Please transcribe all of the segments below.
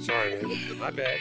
Sorry, man. My bad.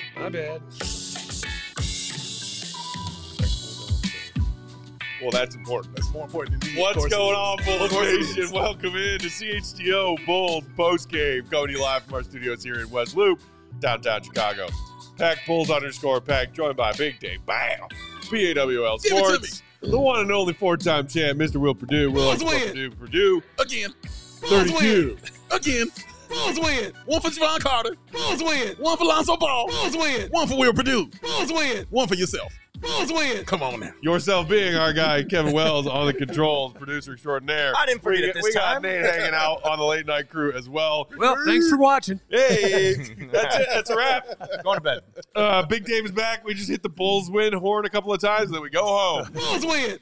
Well, that's important. That's more important than me. What's going on, Bulls Nation? is. Welcome in to CHGO Bulls postgame. Coming to you live from our studios here in West Loop, downtown Chicago. Pack Bulls _Pack, joined by Big Dave Bam, BAWL Sports, the one and only four-time champ, Mr. Will Purdue. Purdue. Again. 32. Again. Bulls win. One for Javon Carter. Bulls win. One for Lonzo Ball. Bulls win. One for Will Purdue. Bulls win. One for yourself. Bulls win. Come on now. Yourself being our guy, Kevin Wells, on the controls, producer extraordinaire. I didn't forget it this we got time. Nate hanging out on the late night crew as well. Well, thanks for watching. Hey, that's it. That's a wrap. Going to bed. Big Dave is back. We just hit the Bulls win horn a couple of times, and then we go home. Bulls win.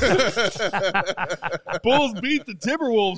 Bulls beat the Timberwolves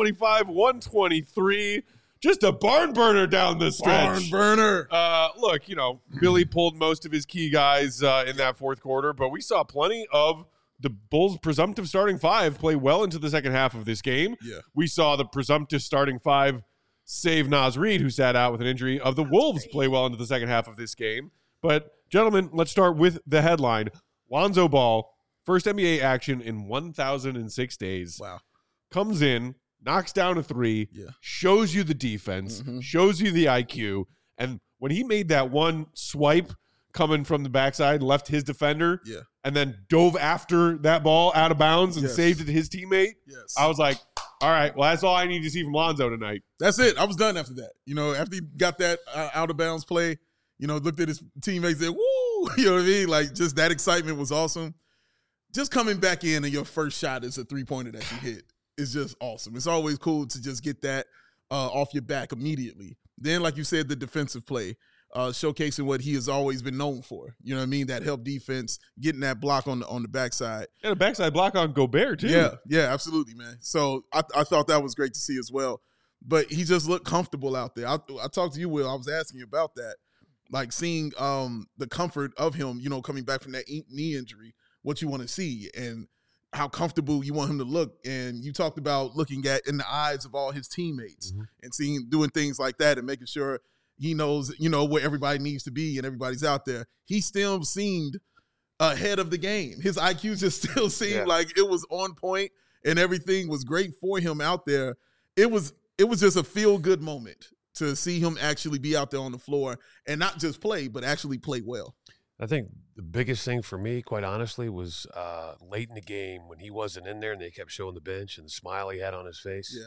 125-123. Just a barn burner down the stretch. Barn burner. Look, Billy pulled most of his key guys in that fourth quarter, but we saw plenty of the Bulls' presumptive starting five play well into the second half of this game. Yeah. We saw the presumptive starting five, save Naz Reid, who sat out with an injury, of the Wolves play well into the second half of this game. But, gentlemen, let's start with the headline. Lonzo Ball, first NBA action in 1,006 days. Wow. Comes in, knocks down a three, Yeah. shows you the defense, shows you the IQ. And when he made that one swipe coming from the backside, left his defender, Yeah. and then dove after that ball out of bounds and Yes. saved it to his teammate, Yes. I was like, all right, well, that's all I need to see from Lonzo tonight. That's it. I was done after that. After he got that out of bounds play, looked at his teammates and said, woo, you know what I mean? Like, just that excitement was awesome. Just coming back in and your first shot is a three-pointer that you hit is just awesome. It's always cool to just get that off your back immediately. Then, like you said, the defensive play, showcasing what he has always been known for. You know what I mean? That help defense, getting that block on the backside. And a backside block on Gobert, too. Yeah, absolutely, man. So I thought that was great to see as well. But he just looked comfortable out there. I talked to you, Will. I was asking you about that. Like seeing the comfort of him, coming back from that knee injury, what you want to see and how comfortable you want him to look. And you talked about looking at in the eyes of all his teammates and doing things like that and making sure he knows, where everybody needs to be and everybody's out there. He still seemed ahead of the game. His IQ just still seemed like it was on point and everything was great for him out there. It was just a feel-good moment to see him actually be out there on the floor and not just play, but actually play well. I think the biggest thing for me, quite honestly, was late in the game when he wasn't in there and they kept showing the bench and the smile he had on his face. Yeah.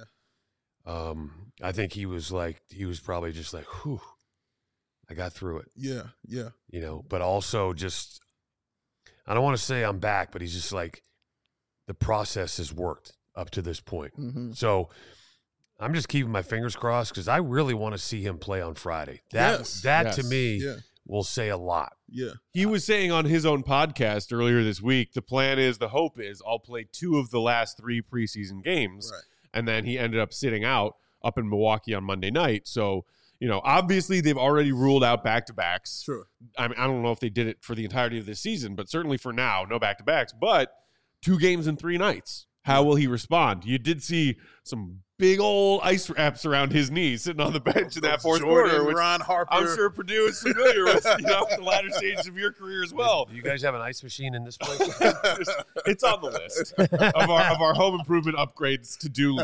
I think he was probably just like, whew, I got through it. Yeah. But also just, I don't want to say I'm back, but he's just like, the process has worked up to this point. So I'm just keeping my fingers crossed because I really want to see him play on Friday. That to me will say a lot. Yeah. He was saying on his own podcast earlier this week, the hope is I'll play 2 of the last 3 preseason games. Right. And then he ended up sitting out up in Milwaukee on Monday night. So, obviously they've already ruled out back-to-backs. Sure. I don't know if they did it for the entirety of this season, but certainly for now, no back-to-backs. But 2 games in 3 nights. How will he respond? You did see some big old ice wraps around his knees sitting on the bench in that fourth quarter, which Ron Harper. I'm sure Purdue is familiar with, the latter stages of your career as well. Do you guys have an ice machine in this place? It's on the list of our home improvement upgrades to-do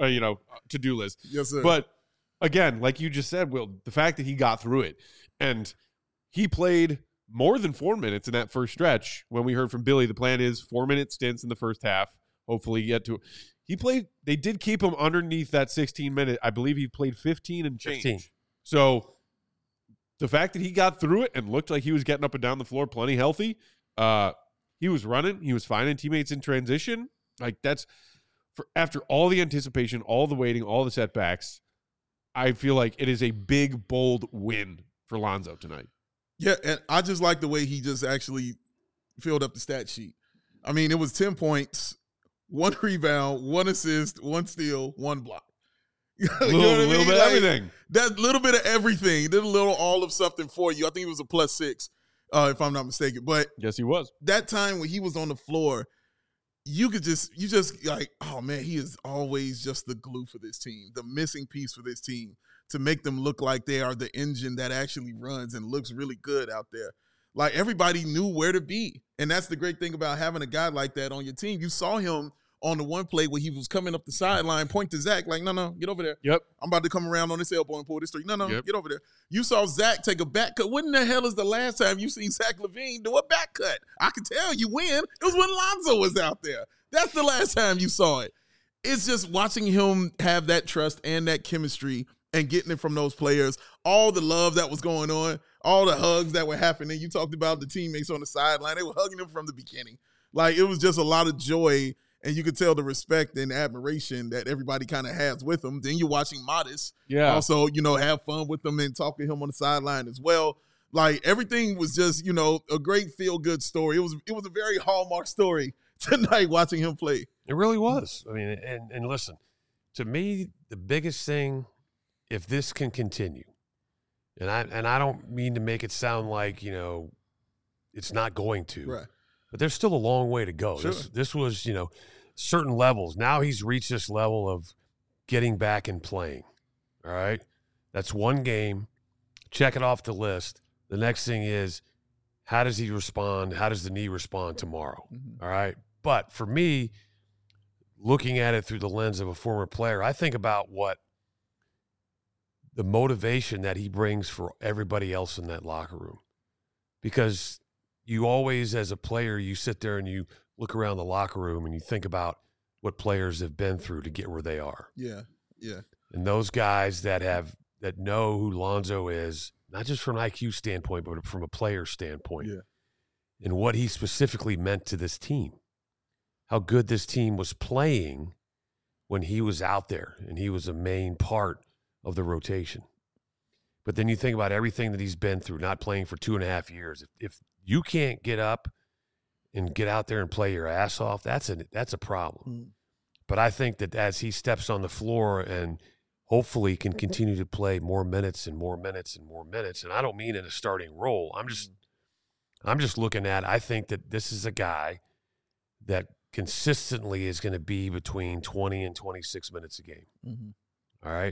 list. Yes, sir. But again, like you just said, Will, the fact that he got through it and he played more than 4 minutes in that first stretch. When we heard from Billy, the plan is 4-minute stints in the first half. Hopefully get to he played. They did keep him underneath that 16-minute. I believe he played 15 and change. 15. So the fact that he got through it and looked like he was getting up and down the floor plenty healthy, he was running. He was finding teammates in transition. Like that's after all the anticipation, all the waiting, all the setbacks. I feel like it is a big, bold win for Lonzo tonight. Yeah, and I just like the way he just actually filled up the stat sheet. I mean, it was 10 points. 1 rebound, 1 assist, 1 steal, 1 block. Little bit of everything. That little bit of everything. Did a little all of something for you. I think it was a +6, if I'm not mistaken. But yes, he was. That time when he was on the floor, you just like, oh man, he is always just the glue for this team, the missing piece for this team to make them look like they are the engine that actually runs and looks really good out there. Like, everybody knew where to be. And that's the great thing about having a guy like that on your team. You saw him on the one play where he was coming up the sideline, point to Zach, like, no, get over there. Yep. I'm about to come around on this elbow and pull this three. No, Yep. get over there. You saw Zach take a back cut. When the hell is the last time you seen Zach LaVine do a back cut? I can tell you when. It was when Lonzo was out there. That's the last time you saw it. It's just watching him have that trust and that chemistry and getting it from those players, all the love that was going on, all the hugs that were happening. You talked about the teammates on the sideline. They were hugging him from the beginning. Like, it was just a lot of joy, and you could tell the respect and admiration that everybody kind of has with him. Then you're watching Modest also, have fun with him and talk to him on the sideline as well. Like, everything was just, a great feel-good story. It was a very Hallmark story tonight watching him play. It really was. I mean, and listen, to me, the biggest thing, if this can continue, and I don't mean to make it sound like, it's not going to. Right. But there's still a long way to go. Sure. This was, certain levels. Now he's reached this level of getting back and playing. All right? That's one game. Check it off the list. The next thing is, how does he respond? How does the knee respond tomorrow? Mm-hmm. All right? But for me, looking at it through the lens of a former player, I think about what the motivation that he brings for everybody else in that locker room. Because you always, as a player, you sit there and you look around the locker room and you think about what players have been through to get where they are. Yeah. And those guys that know who Lonzo is, not just from an IQ standpoint, but from a player standpoint, and what he specifically meant to this team, how good this team was playing when he was out there and he was a main part of the rotation. But then you think about everything that he's been through, not playing for 2.5 years. If you can't get up and get out there and play your ass off, that's a problem. But I think that as he steps on the floor and hopefully can continue to play more minutes and more minutes and more minutes, and I don't mean in a starting role. I'm just looking at, I think that this is a guy that consistently is going to be between 20 and 26 minutes a game. All right?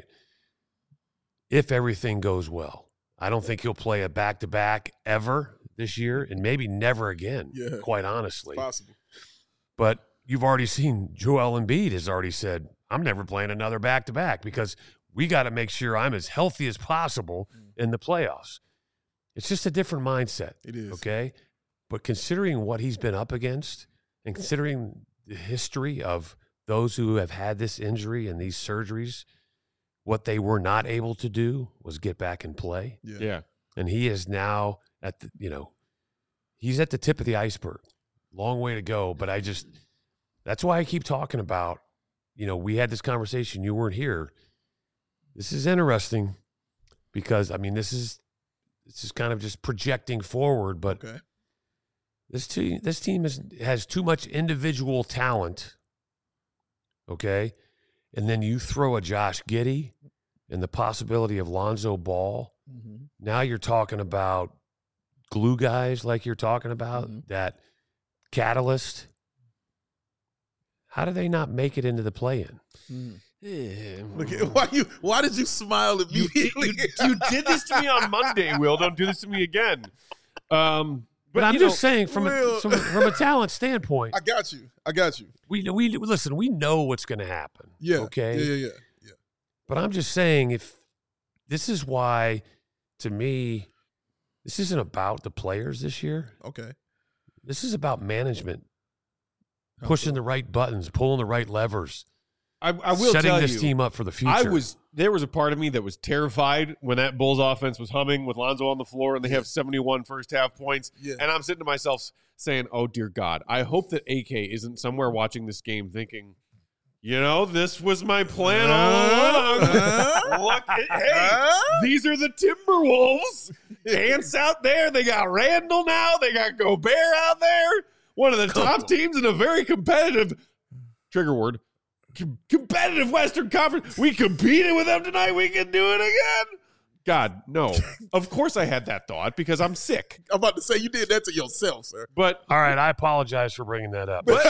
If everything goes well. I don't think he'll play a back-to-back ever this year, and maybe never again, quite honestly. It's possible. But you've already seen Joel Embiid has already said, I'm never playing another back-to-back because we got to make sure I'm as healthy as possible in the playoffs. It's just a different mindset. It is. Okay? But considering what he's been up against and considering the history of those who have had this injury and these surgeries, what they were not able to do was get back and play. Yeah. And he is now at the, he's at the tip of the iceberg. Long way to go. But that's why I keep talking about, we had this conversation. You weren't here. This is interesting because, this is kind of just projecting forward, but this team has too much individual talent. Okay. And then you throw a Josh Giddey and the possibility of Lonzo Ball. Now you're talking about glue guys like you're talking about, that catalyst. How do they not make it into the play-in? Look at, why did you smile immediately? You did this to me on Monday, Will. Don't do this to me again. But I'm just saying from a talent standpoint. I got you. We listen, we know what's going to happen. Yeah. Okay. Yeah. But I'm just saying, if this is why, to me, this isn't about the players this year. Okay. This is about management, pushing the right buttons, pulling the right levers. I will setting tell this you, team up for the future. There was a part of me that was terrified when that Bulls offense was humming with Lonzo on the floor and they have 71 first half points. Yeah. And I'm sitting to myself saying, oh, dear God, I hope that AK isn't somewhere watching this game thinking, this was my plan all along. Look, these are the Timberwolves. Ants out there. They got Randall now. They got Gobert out there. One of the top teams in a very competitive, trigger word, competitive Western Conference. We competed with them tonight. We can do it again. God, no. Of course I had that thought because I'm sick. I'm about to say you did that to yourself, sir. But all right, I apologize for bringing that up. But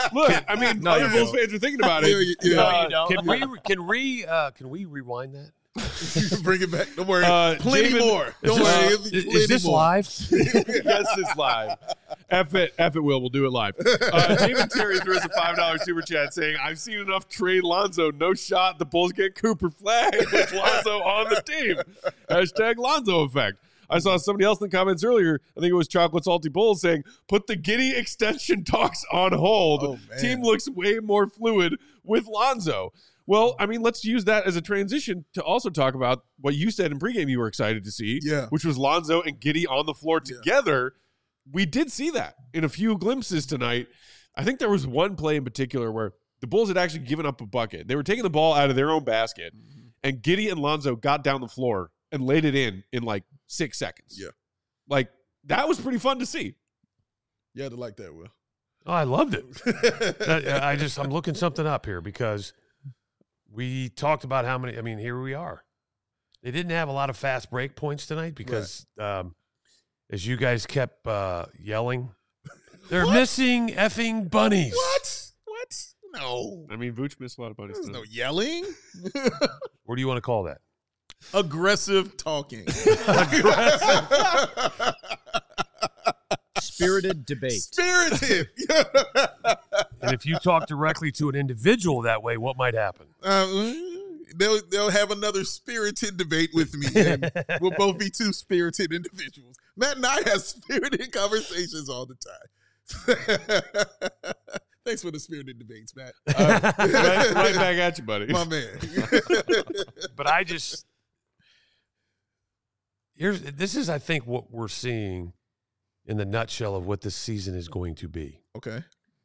other Bulls fans are thinking about it. Yeah. Can we rewind that? Bring it back. Don't worry. Plenty Jamin, more. Don't worry. It'll be Is this plenty more. live? Yes, it's live. F it, Will. We'll do it live. David Terry threw us a $5 super chat saying, I've seen enough trade Lonzo. No shot. The Bulls get Cooper Flag with Lonzo on the team. Hashtag Lonzo effect. I saw somebody else in the comments earlier. I think it was Chocolate Salty Bulls saying, put the Giddey extension talks on hold. Oh, man. Team looks way more fluid with Lonzo. Well, I mean, let's use that as a transition to also talk about what you said in pregame you were excited to see, which was Lonzo and Giddey on the floor together. We did see that in a few glimpses tonight. I think there was one play in particular where the Bulls had actually given up a bucket. They were taking the ball out of their own basket, and Giddey and Lonzo got down the floor and laid it in like 6 seconds. Yeah. Like, that was pretty fun to see. You had to like that, Will. Oh, I loved it. I'm looking something up here because we talked about how many. I mean, here we are. They didn't have a lot of fast break points tonight because, as you guys kept yelling, they're missing effing bunnies. What? No. I mean, Vooch missed a lot of bunnies. There's no yelling. What do you want to call that? Aggressive talking. Spirited debate. Spirited. And if you talk directly to an individual that way, what might happen? They'll have another spirited debate with me. And we'll both be two spirited individuals. Matt and I have spirited conversations all the time. Thanks for the spirited debates, Matt. Right back at you, buddy. My man. But this is, I think, what we're seeing in the nutshell of what this season is going to be. Okay.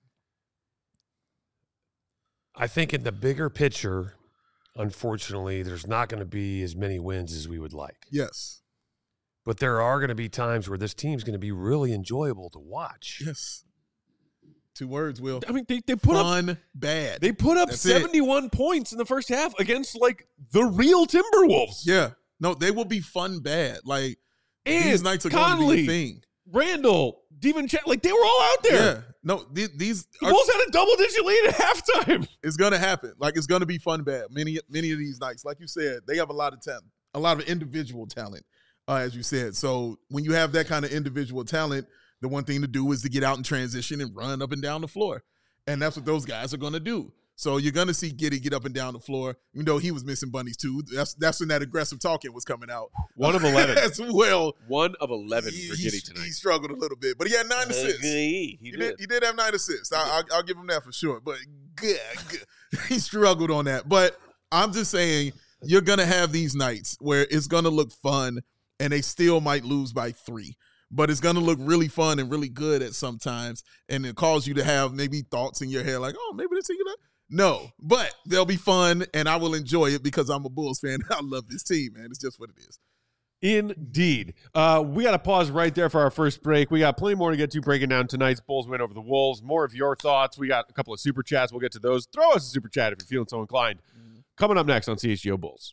I think in the bigger picture, unfortunately, there's not going to be as many wins as we would like. Yes. But there are going to be times where this team's going to be really enjoyable to watch. Yes. 2 words, Will. I mean, they put Fun, bad. They put up That's 71 points in the first half against, like, the real Timberwolves. Yeah. No, they will be fun, bad. Like, And these nights are Conley, going to be a thing. Randall, Divincenzo, like, they were all out there. Yeah. No, these The Bulls had a double-digit lead at halftime. it's going to happen. Like, it's going to be fun, bad. Many of these nights, like you said, they have a lot of talent, a lot of individual talent, as you said. So when you have that kind of individual talent, the one thing to do is to get out and transition and run up and down the floor. And that's what those guys are going to do. So you're going to see Giddey get up and down the floor. You know, he was missing bunnies too. That's when that aggressive talking was coming out. 1 of 11. As well. 1 of 11 for Giddey tonight. He struggled a little bit, but he had 9 assists. He did have 9 assists. I'll give him that for sure. But good. He struggled on that. But I'm just saying, you're going to have these nights where it's going to look fun, and they still might lose by 3. But it's going to look really fun and really good at sometimes, and it cause you to have maybe thoughts in your head like, oh, maybe this team. No, but they'll be fun, and I will enjoy it because I'm a Bulls fan. I love this team, man. It's just what it is. Indeed. We got to pause right there for our first break. We got plenty more to get to breaking down tonight's Bulls win over the Wolves. More of your thoughts. We got a couple of super chats. We'll get to those. Throw us a super chat if you're feeling so inclined. Coming up next on CHGO Bulls.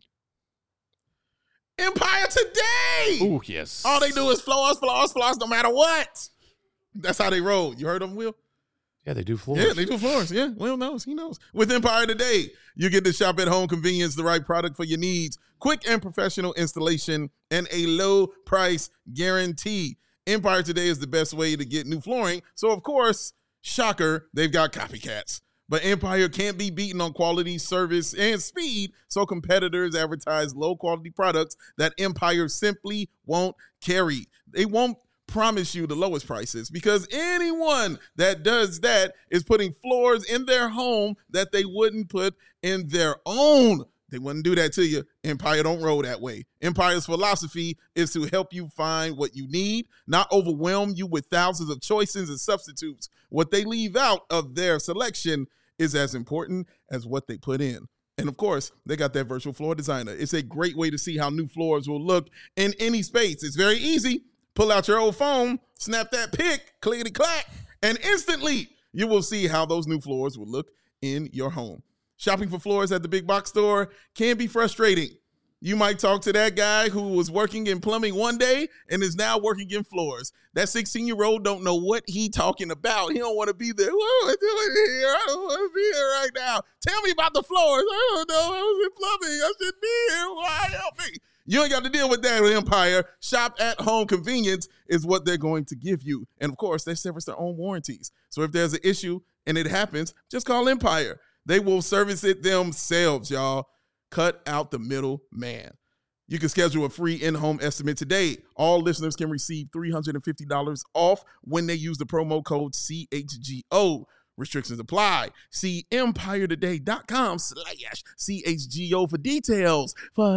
Empire today. Ooh, yes. All they do is floors, no matter what. That's how they roll. You heard them, Will? Yeah, they do floors. Yeah, they do floors. Yeah, Will knows. He knows. With Empire Today, you get to shop at home convenience, the right product for your needs, quick and professional installation, and a low price guarantee. Empire Today is the best way to get new flooring. So, of course, shocker, they've got copycats. But Empire can't be beaten on quality, service, and speed, so competitors advertise low-quality products that Empire simply won't carry. They won't promise you the lowest prices because anyone that does that is putting floors in their home that they wouldn't put in their own. They wouldn't do that to you. Empire don't roll that way. Empire's philosophy is to help you find what you need, not overwhelm you with thousands of choices and substitutes. What they leave out of their selection is as important as what they put in. And of course, they got that virtual floor designer. It's a great way to see how new floors will look in any space. It's very easy. Pull out your old phone, snap that pic, clickety-clack, and instantly you will see how those new floors will look in your home. Shopping for floors at the big box store can be frustrating. You might talk to that guy who was working in plumbing one day and is now working in floors. That 16-year-old don't know what he talking about. He don't want to be there. What am I doing here? I don't want to be here right now. Tell me about the floors. I don't know. I was in plumbing. I should be here. Why? Help me. You ain't got to deal with that, Empire. Shop at home convenience is what they're going to give you. And, of course, they service their own warranties. So if there's an issue and it happens, just call Empire. They will service it themselves, y'all. Cut out the middle man. You can schedule a free in-home estimate today. All listeners can receive $350 off when they use the promo code CHGO. Restrictions apply. See EmpireToday.com/CHGO for details.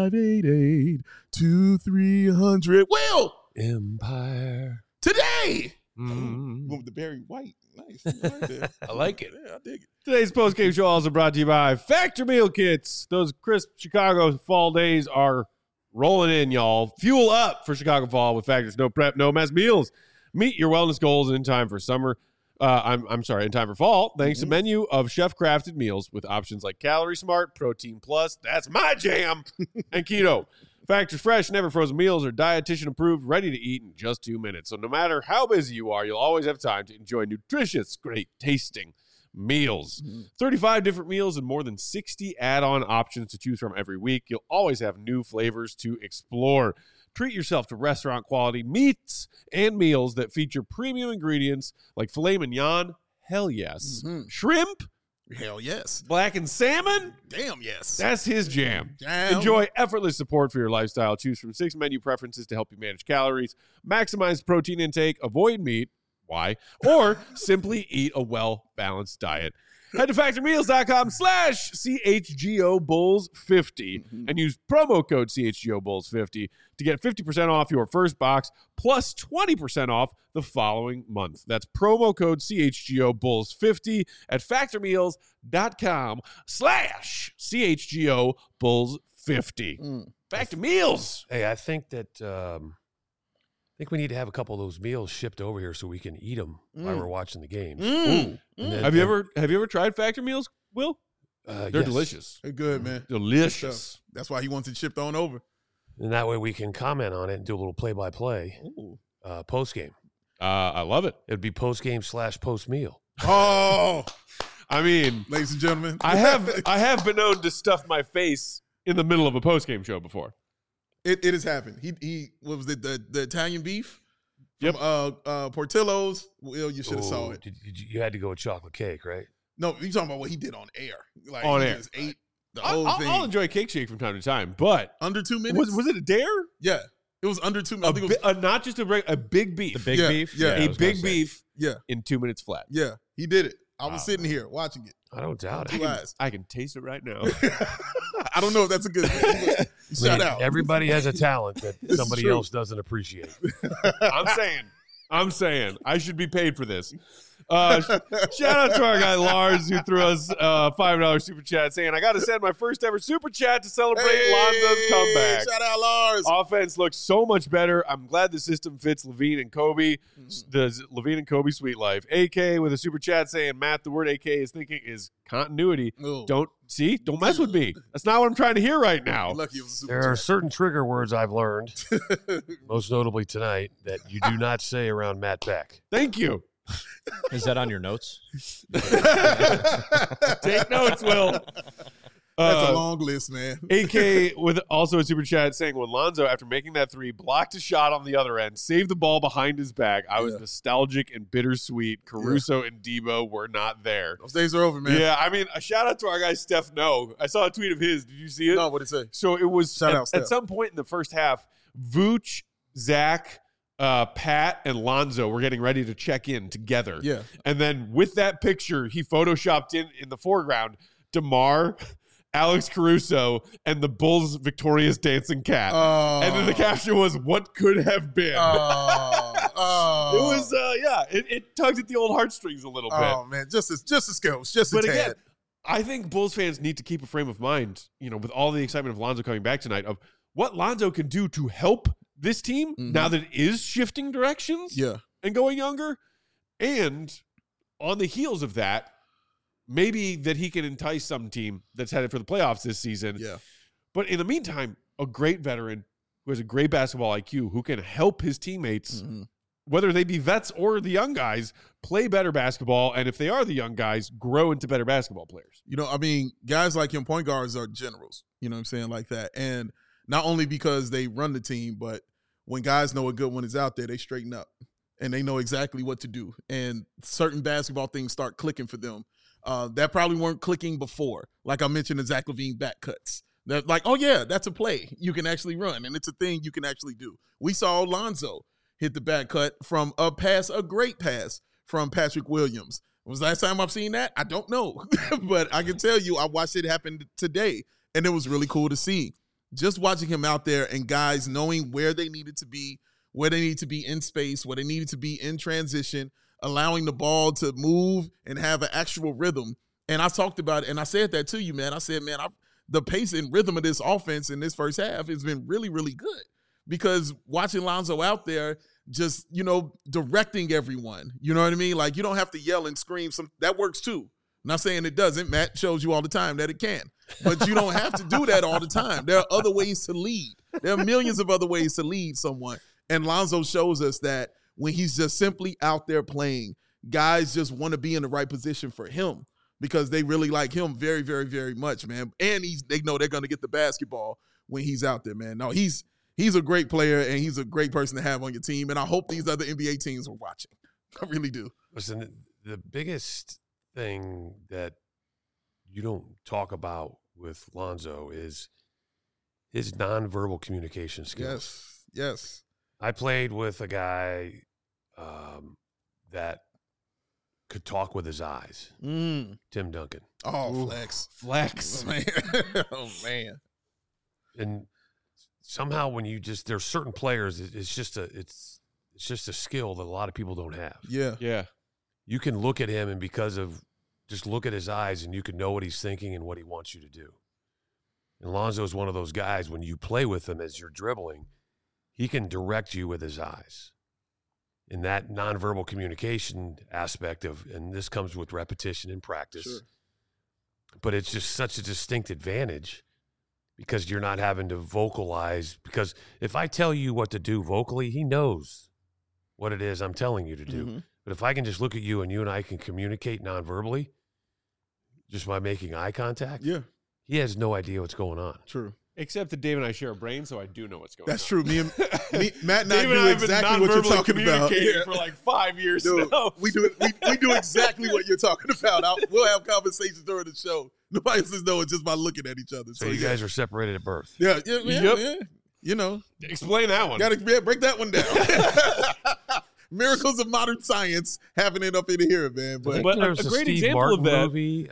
588-2300. Will! Empire. Today! Mm. With the Barry White. Nice. Right I like it. yeah, I dig it. Today's post-game show also brought to you by Factor Meal Kits. Those crisp Chicago fall days are rolling in, y'all. Fuel up for Chicago fall with Factor's no prep, no mess meals. Meet your wellness goals in time for summer. In time for fall, thanks to a menu of chef-crafted meals with options like Calorie Smart, Protein Plus, that's my jam, and Keto. Factor's fresh, never frozen meals are dietitian approved, ready to eat in just 2 minutes. So no matter how busy you are, you'll always have time to enjoy nutritious, great tasting meals. 35 different meals and more than 60 add-on options to choose from every week. You'll always have new flavors to explore. Treat yourself to restaurant quality meats and meals that feature premium ingredients like filet mignon, hell yes. Shrimp, Hell yes. blackened salmon, Damn yes. that's his jam. Damn. Enjoy effortless support for your lifestyle. Choose from 6 menu preferences to help you manage calories, maximize protein intake, avoid meat, why? Or simply eat a well-balanced diet. Head to factormeals.com/CHGOBulls50 and use promo code CHGOBulls50 to get 50% off your first box plus 20% off the following month. That's promo code CHGOBulls50 at factormeals.com/CHGOBulls50. Factor Meals. Hey, I think that we need to have a couple of those meals shipped over here so we can eat them while we're watching the games. And then- Have you ever tried Factor Meals, Will? They're yes. delicious. They're good, man. Delicious. That's why he wants it shipped on over. And that way we can comment on it and do a little play-by-play post-game. I love it. It would be post-game / post-meal. Oh, I mean, ladies and gentlemen. I have been known to stuff my face in the middle of a post-game show before. It has happened. He what was it, the Italian beef? Yep. From Portillo's. Well, you should have saw it. You had to go with chocolate cake, right? No, you talking about what he did on air. Like On he air. just ate the whole thing. I'll enjoy Cake Shake from time to time, but Under 2 minutes. was it a dare? Yeah. It was under 2 minutes. I think it was, Not just a big beef. The big Yeah, beef? yeah. I a was gonna big say. beef yeah. in 2 minutes flat. Yeah. He did it. I was Wow. sitting here watching it. I don't doubt it. Two eyes. I can taste it right now. I don't know if that's a good thing. But shout out. Everybody has a talent that This is somebody true. else doesn't appreciate. I'm saying I should be paid for this. Shout out to our guy Lars who threw us a $5 super chat saying, I got to send my first ever super chat to celebrate Lonzo's comeback. Shout out Lars. Offense looks so much better. I'm glad the system fits Levine and Kobe. The Levine and Kobe sweet life. AK with a super chat saying, Matt, the word AK is thinking is continuity. Oh. Don't mess with me. That's not what I'm trying to hear right now. Lucky it was a super There are chat. certain trigger words I've learned, most notably tonight, that you do not say around Matt Beck. Thank you. Is that on your notes? Take notes, Will. That's a long list, man. AK with also a super chat saying, when Lonzo, after making that three, blocked a shot on the other end, saved the ball behind his back, I was nostalgic and bittersweet. Caruso and Debo were not there. Those days are over, man. Yeah, I mean, a shout out to our guy Steph No. I saw a tweet of his. Did you see it? No, what'd it say? So it was Shout out, Steph. at some point in the first half, Vooch, Zach, Pat, and Lonzo were getting ready to check in together. Yeah. And then with that picture, he photoshopped in the foreground DeMar, Alex Caruso, and the Bulls' victorious dancing cat. And then the caption was, what could have been? It was, it tugged at the old heartstrings a little bit. Oh, man. Just a skills. Just But a tad. again, I think Bulls fans need to keep a frame of mind, with all the excitement of Lonzo coming back tonight, of what Lonzo can do to help this team now that it is shifting directions and going younger. And on the heels of that, maybe that he can entice some team that's headed for the playoffs this season. Yeah. But in the meantime, a great veteran who has a great basketball IQ, who can help his teammates, Mm-hmm. whether they be vets or the young guys, play better basketball. And if they are the young guys, grow into better basketball players. You know, I mean, guys like him, point guards are generals, you know what I'm saying, like that. And not only because they run the team, but when guys know a good one is out there, they straighten up and they know exactly what to do. And certain basketball things start clicking for them that probably weren't clicking before. Like I mentioned, the Zach LaVine back cuts. That like, oh yeah, that's a play you can actually run, and it's a thing you can actually do. We saw Lonzo hit the back cut from a great pass from Patrick Williams. Was the last time I've seen that? I don't know. But I can tell you I watched it happen today, and it was really cool to see. Just watching him out there and guys knowing where they needed to be, where they need to be in space, where they needed to be in transition, allowing the ball to move and have an actual rhythm. And I talked about it, and I said that to you, man. I said, man, the pace and rhythm of this offense in this first half has been really, really good. Because watching Lonzo out there just, you know, directing everyone, you know what I mean? Like, you don't have to yell and scream. That works too. I'm not saying it doesn't. Matt shows you all the time that it can. But you don't have to do that all the time. There are other ways to lead. There are millions of other ways to lead someone. And Lonzo shows us that when he's just simply out there playing, guys just want to be in the right position for him because they really like him very, very, very much, man. And they know they're going to get the basketball when he's out there, man. No, he's a great player, and he's a great person to have on your team. And I hope these other NBA teams are watching. I really do. Listen, the biggest thing that you don't talk about with Lonzo is his nonverbal communication skills. Yes. I played with a guy that could talk with his eyes. Tim Duncan. Oh, Ooh, flex. Man. Oh, man. And somehow when there's certain players, it's just a skill that a lot of people don't have. Yeah. Yeah. You can look at him, and because of just look at his eyes, and you can know what he's thinking and what he wants you to do. And Lonzo is one of those guys, when you play with him as you're dribbling, he can direct you with his eyes. In that nonverbal communication aspect and this comes with repetition and practice. Sure. But it's just such a distinct advantage because you're not having to vocalize. Because if I tell you what to do vocally, he knows what it is I'm telling you to do. Mm-hmm. But if I can just look at you and you and I can communicate nonverbally, just by making eye contact, Yeah. he has no idea what's going on. True. Except that Dave and I share a brain, so I do know what's going on. That's true. Matt and I Dave do and I have been exactly what you're non-verbally talking about. communicating for like 5 years Dude, now. we do exactly what you're talking about. We'll have conversations during the show. Nobody else knows just by looking at each other. So you guys are separated at birth. Yeah. Yep. You know, Explain that one. got to break that one down. Miracles of modern science happening up in here, man. But But There's a great Steve example Martin of that. movie.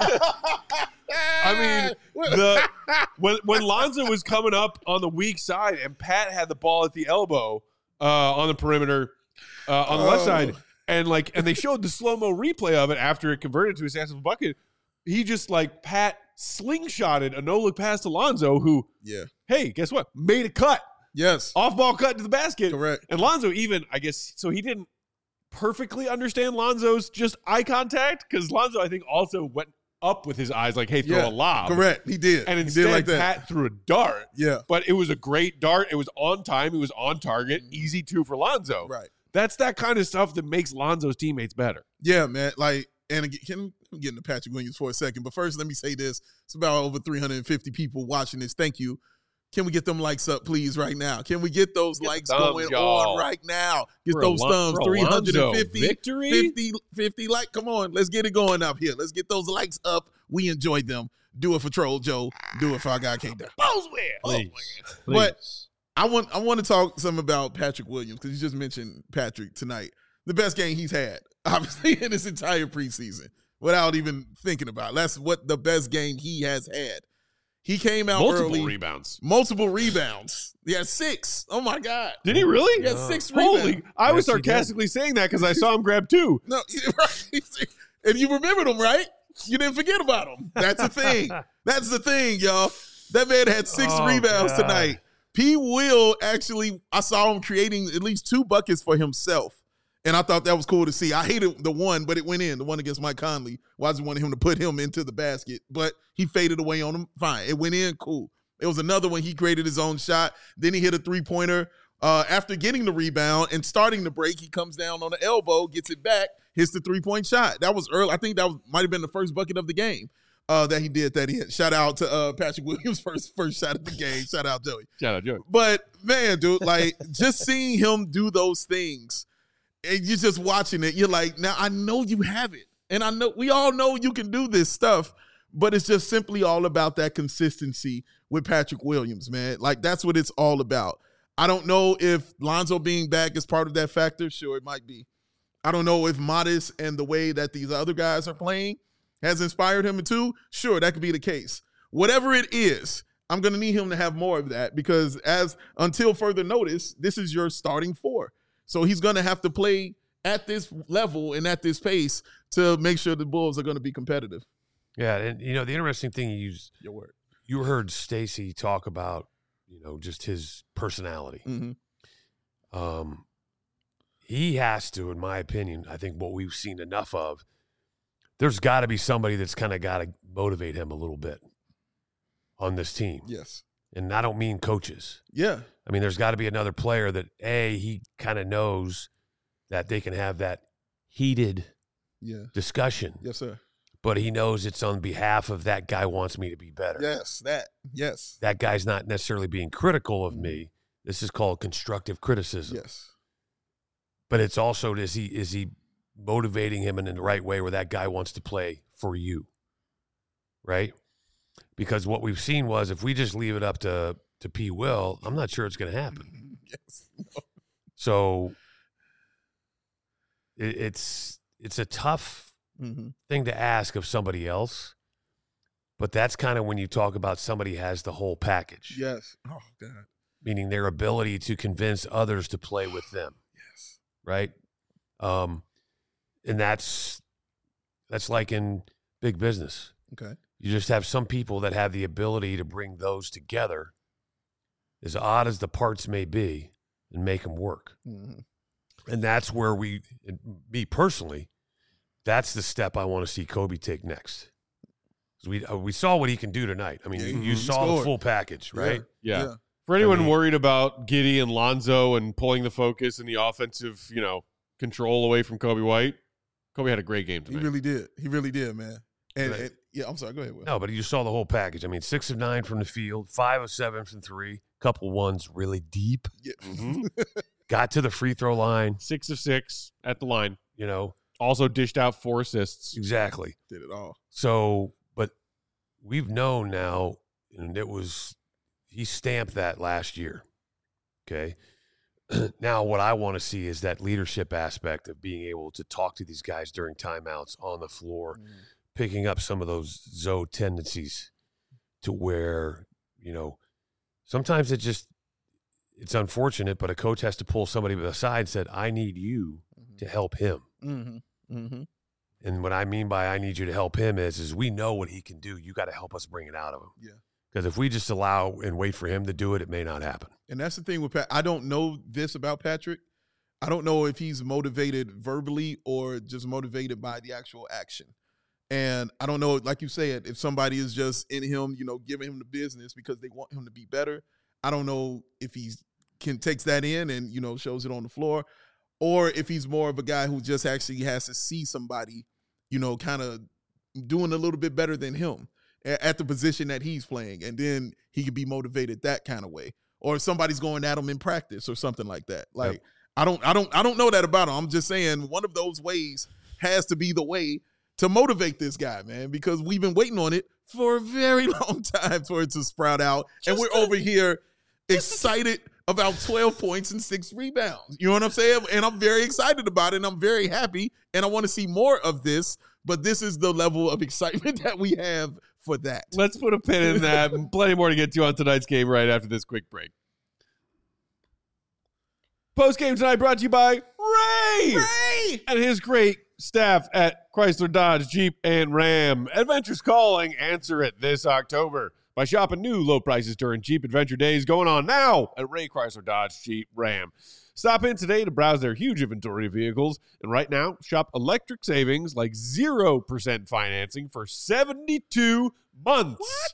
I mean, when Lonzo was coming up on the weak side and Pat had the ball at the elbow on the perimeter on the left side, and they showed the slow-mo replay of it after it converted to a successful bucket, he just Pat slingshotted a no-look pass to Lonzo, who, yeah, hey, guess what? Made a cut. yes, Off-ball cut to the basket. correct. And Lonzo even, I guess, so he didn't perfectly understand Lonzo's just eye contact, because Lonzo, I think, also went up with his eyes like, hey, throw a lob. Correct. He did. And he instead, did like that. Pat threw a dart. Yeah. But it was a great dart. It was on time. It was on target. Easy two for Lonzo. Right. That's that kind of stuff that makes Lonzo's teammates better. Yeah, man. Like, and again, I'm getting to Patrick Williams for a second, but first, let me say this: it's about over 350 people watching this. Thank you. Can we get them likes up, please, right now? Can we get those likes thumbs, going y'all. on right now? Get For those thumbs. for a Lonzo 350, victory? 50 like. Come on, let's get it going up here. Let's get those likes up. We enjoyed them. Do it for Troll Joe. Do it for our guy King Down. Please. But I want to talk some about Patrick Williams because you just mentioned Patrick tonight. The best game he's had, obviously, in his entire preseason, without even thinking about it. That's what the best game he has had. He came out Multiple early. rebounds. Multiple rebounds. He had 6. Oh, my God. Did he really? He had 6 rebounds. Holy. I was Yes, he did. sarcastically saying that because I saw him grab 2. No, right. And you remembered him, right? You didn't forget about him. That's the thing. That's the thing, y'all. That man had 6 rebounds God. tonight. P. Will actually, I saw him creating at least 2 buckets for himself. And I thought that was cool to see. I hated the one, but it went in, the one against Mike Conley. Well, I just wanted him to put him into the basket, but he faded away on him. Fine. It went in, cool. It was another one. He created his own shot. Then he hit a three-pointer. After getting the rebound and starting the break, he comes down on the elbow, gets it back, hits the three-point shot. That was early. I think that might have been the first bucket of the game that he did that hit. Shout out to Patrick Williams, first shot of the game. Shout out, Joey. Shout out, Joey. But, man, dude, like, just seeing him do those things, and you're just watching it, you're like, now I know you have it. And I know we all know you can do this stuff, but it's just simply all about that consistency with Patrick Williams, man. Like, that's what it's all about. I don't know if Lonzo being back is part of that factor. Sure, it might be. I don't know if Modest and the way that these other guys are playing has inspired him too. Sure, that could be the case. Whatever it is, I'm going to need him to have more of that because until further notice, this is your starting four. So he's going to have to play at this level and at this pace to make sure the Bulls are going to be competitive. Yeah, and the interesting thing Your word. You heard Stacey talk about, just his personality. Mm-hmm. He has to, in my opinion, I think what we've seen enough of, there's got to be somebody that's kind of got to motivate him a little bit on this team. Yes. And I don't mean coaches. Yeah. I mean, there's got to be another player that, he kind of knows that they can have that heated discussion. Yes, sir. But he knows it's on behalf of that guy wants me to be better. Yes, yes. That guy's not necessarily being critical of me. This is called constructive criticism. Yes. But it's also, is he motivating him in the right way where that guy wants to play for you, right? Because what we've seen was if we just leave it up to P. Will, I'm not sure it's going to happen. Yes. So it's a tough thing to ask of somebody else, but that's kind of when you talk about somebody has the whole package. Yes. Oh, God. Meaning their ability to convince others to play with them. Yes. Right? And that's like in big business. Okay. You just have some people that have the ability to bring those together, as odd as the parts may be, and make them work. Mm-hmm. And that's where me personally, that's the step I want to see Kobe take next. We saw what he can do tonight. I mean, you saw the full package, right? Yeah. For anyone worried about Giddey and Lonzo and pulling the focus and the offensive, control away from Kobe White, Kobe had a great game tonight. He really did, man. And yeah, I'm sorry. Go ahead, Will. No, but you saw the whole package. I mean, 6 of 9 from the field, 5 of 7 from 3, couple ones really deep. Yeah. Got to the free throw line. 6 of 6 at the line. Also dished out 4 assists. Exactly. Did it all. So, but we've known now, and he stamped that last year. Okay. Now, what I want to see is that leadership aspect of being able to talk to these guys during timeouts on the floor, picking up some of those Zoe tendencies to where, sometimes it's unfortunate, but a coach has to pull somebody aside and said, I need you to help him. Mm-hmm. Mm-hmm. And what I mean by I need you to help him is we know what he can do. You got to help us bring it out of him. Yeah. Because if we just allow and wait for him to do it, it may not happen. And that's the thing with Pat. I don't know this about Patrick. I don't know if he's motivated verbally or just motivated by the actual action. And I don't know, like you said, if somebody is just in him, giving him the business because they want him to be better. I don't know if he takes that in and, shows it on the floor, or if he's more of a guy who just actually has to see somebody, kind of doing a little bit better than him at the position that he's playing. And then he could be motivated that kind of way. Or if somebody's going at him in practice or something like that. Like, yep. I don't know that about him. I'm just saying one of those ways has to be the way to motivate this guy, man, because we've been waiting on it for a very long time for it to sprout out. And we're over here excited about 12 points and 6 rebounds. You know what I'm saying? And I'm very excited about it, and I'm very happy, and I want to see more of this, but this is the level of excitement that we have for that. Let's put a pin in that. Plenty more to get to on tonight's game right after this quick break. Post-game tonight brought to you by Ray and his great staff at Chrysler, Dodge, Jeep, and Ram. Adventure's calling. Answer it this October by shopping new low prices during Jeep Adventure Days going on now at Ray Chrysler, Dodge, Jeep, Ram. Stop in today to browse their huge inventory of vehicles. And right now, shop electric savings like 0% financing for 72 months.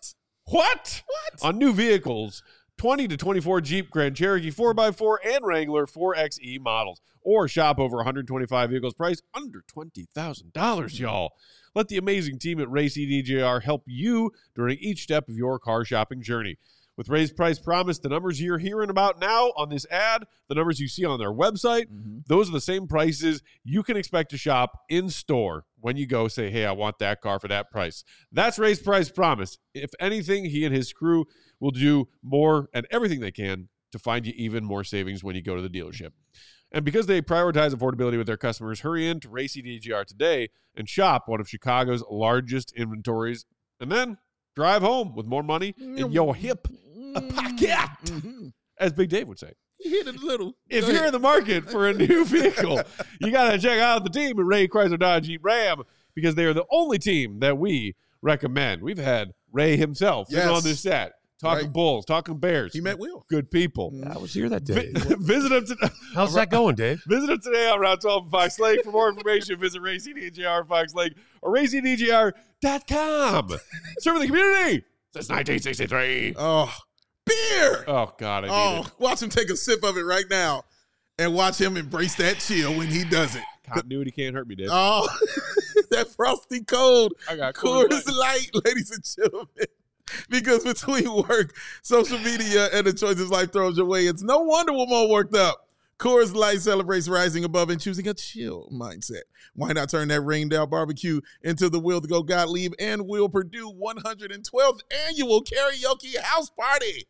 What? On new vehicles, 20 to 24 Jeep Grand Cherokee 4x4 and Wrangler 4xe models. Or shop over 125 vehicles priced under $20,000, y'all. Let the amazing team at Ray CDJR help you during each step of your car shopping journey. With Ray's Price Promise, the numbers you're hearing about now on this ad, the numbers you see on their website, those are the same prices you can expect to shop in store when you go say, hey, I want that car for that price. That's Ray's Price Promise. If anything, he and his crew will do more and everything they can to find you even more savings when you go to the dealership. And because they prioritize affordability with their customers, hurry in to Ray CDJR today and shop one of Chicago's largest inventories, and then drive home with more money in your hip pocket, as Big Dave would say. You hit it a little. If you're in the market for a new vehicle, you got to check out the team at Ray Chrysler Dodge Jeep Ram, because they are the only team that we recommend. We've had Ray himself on this set, talking Bulls, talking Bears. He met Will. Good people. I was here that day. Visit him today. How's that going, Dave? Visit him today on Route 12 in Fox Lake. For more information, visit Ray CDJR Fox Lake or RayCDJR.com. Serving the community since 1963. Oh, beer. Oh, God, I need it. Watch him take a sip of it right now and watch him embrace that chill when he does it. Continuity can't hurt me, Dave. Oh, that frosty cold I got Coors Light, ladies and gentlemen. Because between work, social media, and the choices life throws your way, it's no wonder we're more worked up. Coors Light celebrates rising above and choosing a chill mindset. Why not turn that rained-out barbecue into the Will to Go Gottlieb and Will Purdue 112th annual karaoke house party?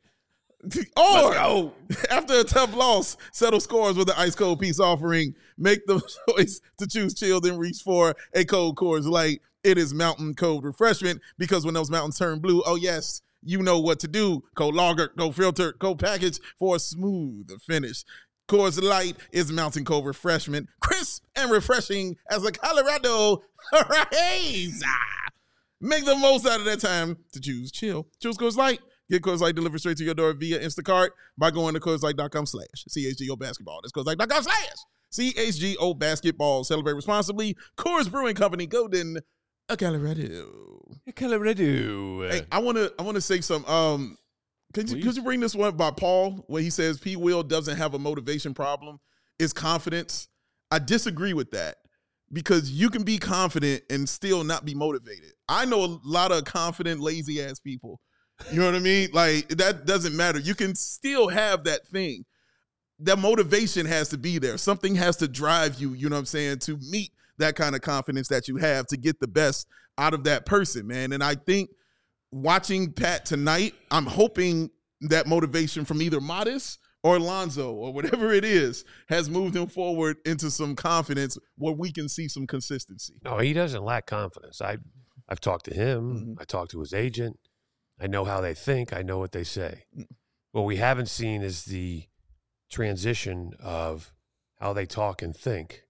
Or, after a tough loss, settle scores with an ice-cold peace offering. Make the choice to choose chill, then reach for a cold Coors Light. It is mountain cold refreshment, because when those mountains turn blue, oh yes, you know what to do. Cold lager, cold filter, cold package for a smooth finish. Coors Light is mountain cold refreshment, crisp and refreshing as a Colorado raise. Make the most out of that time to choose chill. Choose Coors Light. Get Coors Light delivered straight to your door via Instacart by going to CoorsLight.com/CHGO basketball. That's CoorsLight.com/CHGO basketball. Celebrate responsibly. Coors Brewing Company, Golden, Colorado. Hey, I wanna say some. Could you bring this one by Paul, where he says P. Will doesn't have a motivation problem, it's confidence? I disagree with that, because you can be confident and still not be motivated. I know a lot of confident, lazy ass people. You know what I mean? Like, that doesn't matter. You can still have that thing. That motivation has to be there. Something has to drive you, you know what I'm saying, to meet that kind of confidence that you have, to get the best out of that person, man. And I think watching Pat tonight, I'm hoping that motivation from either Modest or Lonzo or whatever it is has moved him forward into some confidence where we can see some consistency. No, he doesn't lack confidence. I've talked to him. I talked to his agent. I know how they think. I know what they say. What we haven't seen is the transition of how they talk and think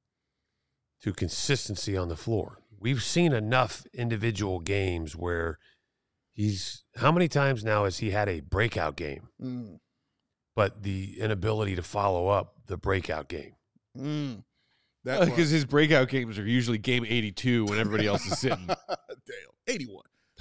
to consistency on the floor. We've seen enough individual games where how many times now has he had a breakout game, but the inability to follow up the breakout game? Because his breakout games are usually game 82 when everybody else is sitting. Damn, 81.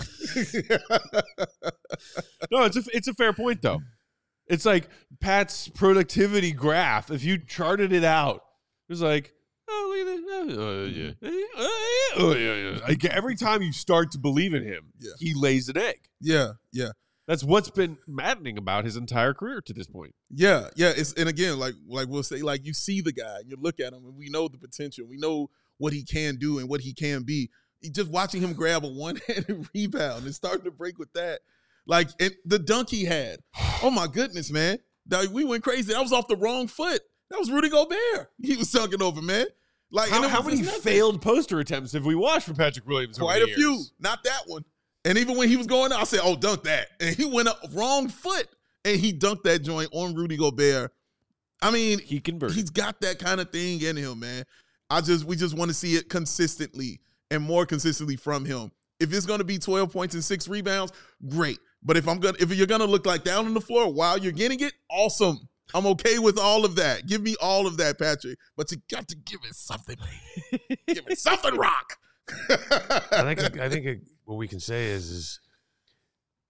No, it's a fair point, though. It's like Pat's productivity graph. If you charted it out, it was like, oh, look at this. Like, every time you start to believe in him, he lays an egg. Yeah. That's what's been maddening about his entire career to this point. Yeah. And again, like we'll say, like, you see the guy, and you look at him, and we know the potential. We know what he can do and what he can be. Just watching him grab a one-handed rebound and starting to break with that. Like, the dunk he had. Oh, my goodness, man. We went crazy. That was off the wrong foot. That was Rudy Gobert. He was dunking over, man. Like, how many failed poster attempts have we watched from Patrick Williams? Quite a few. Not that one. And even when he was going out, I said, oh, dunk that. And he went up wrong foot, and he dunked that joint on Rudy Gobert. I mean, he converted. He's got that kind of thing in him, man. We just want to see it consistently and more consistently from him. If it's going to be 12 points and 6 rebounds, great. But if you're going to look like down on the floor while you're getting it, awesome. I'm okay with all of that. Give me all of that, Patrick. But you got to give it something. Give it something, Rock. I think what we can say is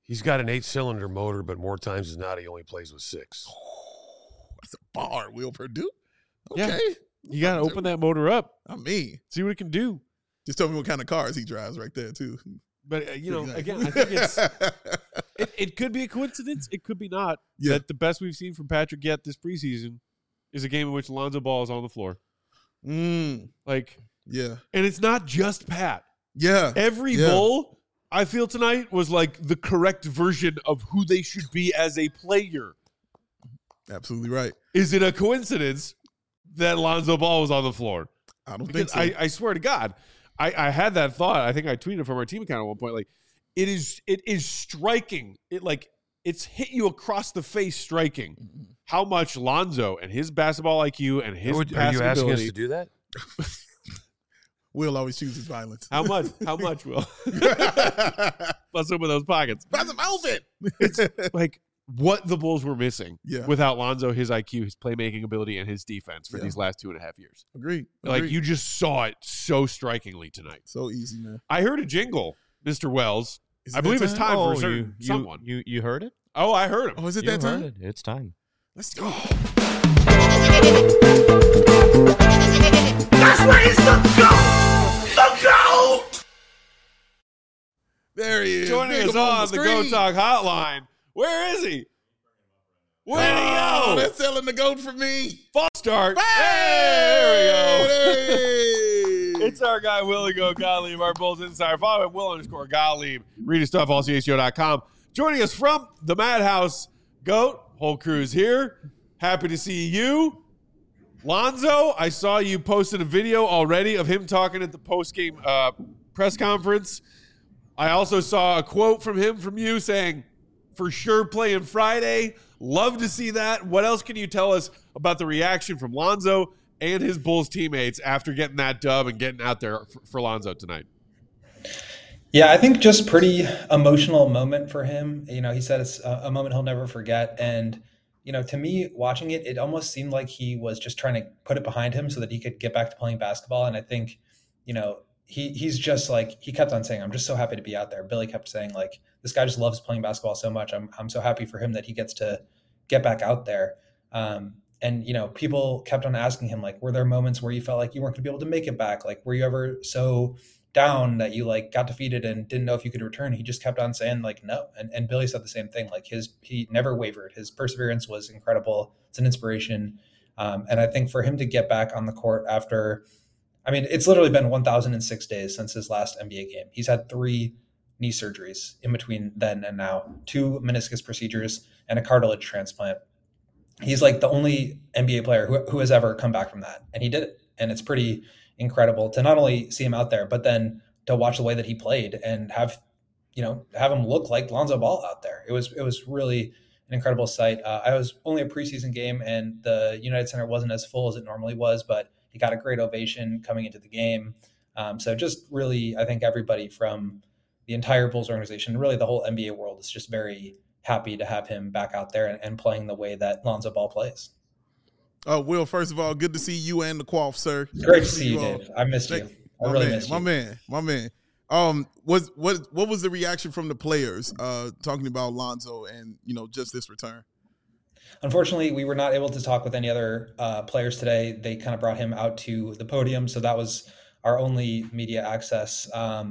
He's got an 8-cylinder motor, but more times than not, he only plays with 6. That's a bar, Will Purdue. Yeah. Okay. You got to open that motor up. I mean, See what it can do. just tell me what kind of cars he drives right there, too. But, again, I think it's it could be a coincidence. It could be not. Yeah. That the best we've seen from Patrick yet this preseason is a game in which Lonzo Ball is on the floor. Like, Yeah. and it's not just Pat. Yeah. Every Bull I feel tonight was like the correct version of who they should be as a player. Absolutely right. Is it a coincidence that Lonzo Ball was on the floor? I don't Because think so. I swear to God, I had that thought. I think I tweeted from our team account at one point. Like, it is striking. It's hit you across the face, striking how much Lonzo and his basketball IQ and his Are passing you asking us ability. to do that? Will always chooses violence. How much? How much, Will? Let's open those pockets. Pass him open. It's like what the Bulls were missing without Lonzo, his IQ, his playmaking ability, and his defense for these last 2.5 years. Agreed. Like, you just saw it so strikingly tonight. So easy, man. I heard a jingle, Mr. Wells. Is I it believe that it's time? time for someone. You heard it? Oh, I heard him. Oh, is it You that heard time? it. It's time. Let's go. That's where he's the GOAT! The GOAT! There he is. Joining Big us him on the Go screen. Talk hotline. Where is he? Where'd he Oh, go? they're selling the goat for me. False start. Hey, There we go. hey. It's our guy, Willie Go Gottlieb, our Bulls Insider. Follow him, Will_Gottlieb. Read his stuff, allCHGO.com. Joining us from the Madhouse, Goat. Whole crew's here. Happy to see you. Lonzo, I saw you posted a video already of him talking at the post-game press conference. I also saw a quote from him from you saying, for sure playing Friday. Love to see that. What else can you tell us about the reaction from Lonzo and his Bulls teammates after getting that dub and getting out there for Lonzo tonight? Yeah, I think just pretty emotional moment for him. You know, he said it's a moment he'll never forget. And, you know, to me, watching it, it almost seemed like he was just trying to put it behind him so that he could get back to playing basketball. And I think, you know, he's just like, he kept on saying, I'm just so happy to be out there. Billy kept saying, like, this guy just loves playing basketball so much. I'm so happy for him that he gets to get back out there. And, you know, people kept on asking him, like, were there moments where you felt like you weren't going to be able to make it back? Like, were you ever so down that you like got defeated and didn't know if you could return? He just kept on saying, like, no. And Billy said the same thing. Like, he never wavered. His perseverance was incredible. It's an inspiration. And I think for him to get back on the court after, I mean, it's literally been 1,006 days since his last NBA game. He's had 3 knee surgeries in between then and now, 2 meniscus procedures and a cartilage transplant. He's like the only NBA player who has ever come back from that. And he did it. And it's pretty incredible to not only see him out there, but then to watch the way that he played and have him look like Lonzo Ball out there. It was really an incredible sight. I was only a preseason game and the United Center wasn't as full as it normally was, but he got a great ovation coming into the game. So just really, I think everybody from the entire Bulls organization, really the whole NBA world, is just very happy to have him back out there and playing the way that Lonzo Ball plays. Will, first of all, good to see you and the Quaff, sir. Great to see you, Dave. I missed you. I really missed you. My man. What was the reaction from the players talking about Lonzo and, you know, just this return? Unfortunately, we were not able to talk with any other players today. They kind of brought him out to the podium, so that was our only media access.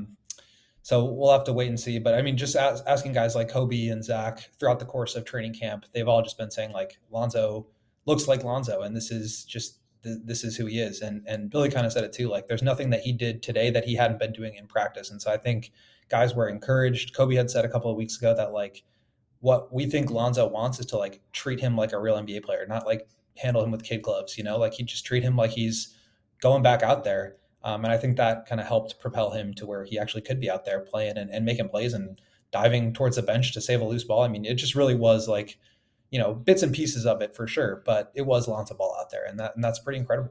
So we'll have to wait and see. But I mean, just asking guys like Kobe and Zach throughout the course of training camp, they've all just been saying, like, Lonzo looks like Lonzo, and this is who he is. And Billy kind of said it too. Like, there's nothing that he did today that he hadn't been doing in practice. And so I think guys were encouraged. Kobe had said a couple of weeks ago that, like, what we think Lonzo wants is to, like, treat him like a real NBA player, not like handle him with kid gloves, you know, like he just treat him like he's going back out there. And I think that kind of helped propel him to where he actually could be out there playing and making plays and diving towards the bench to save a loose ball. I mean, it just really was like, you know, bits and pieces of it for sure, but it was Lonzo Ball out there, and that's pretty incredible.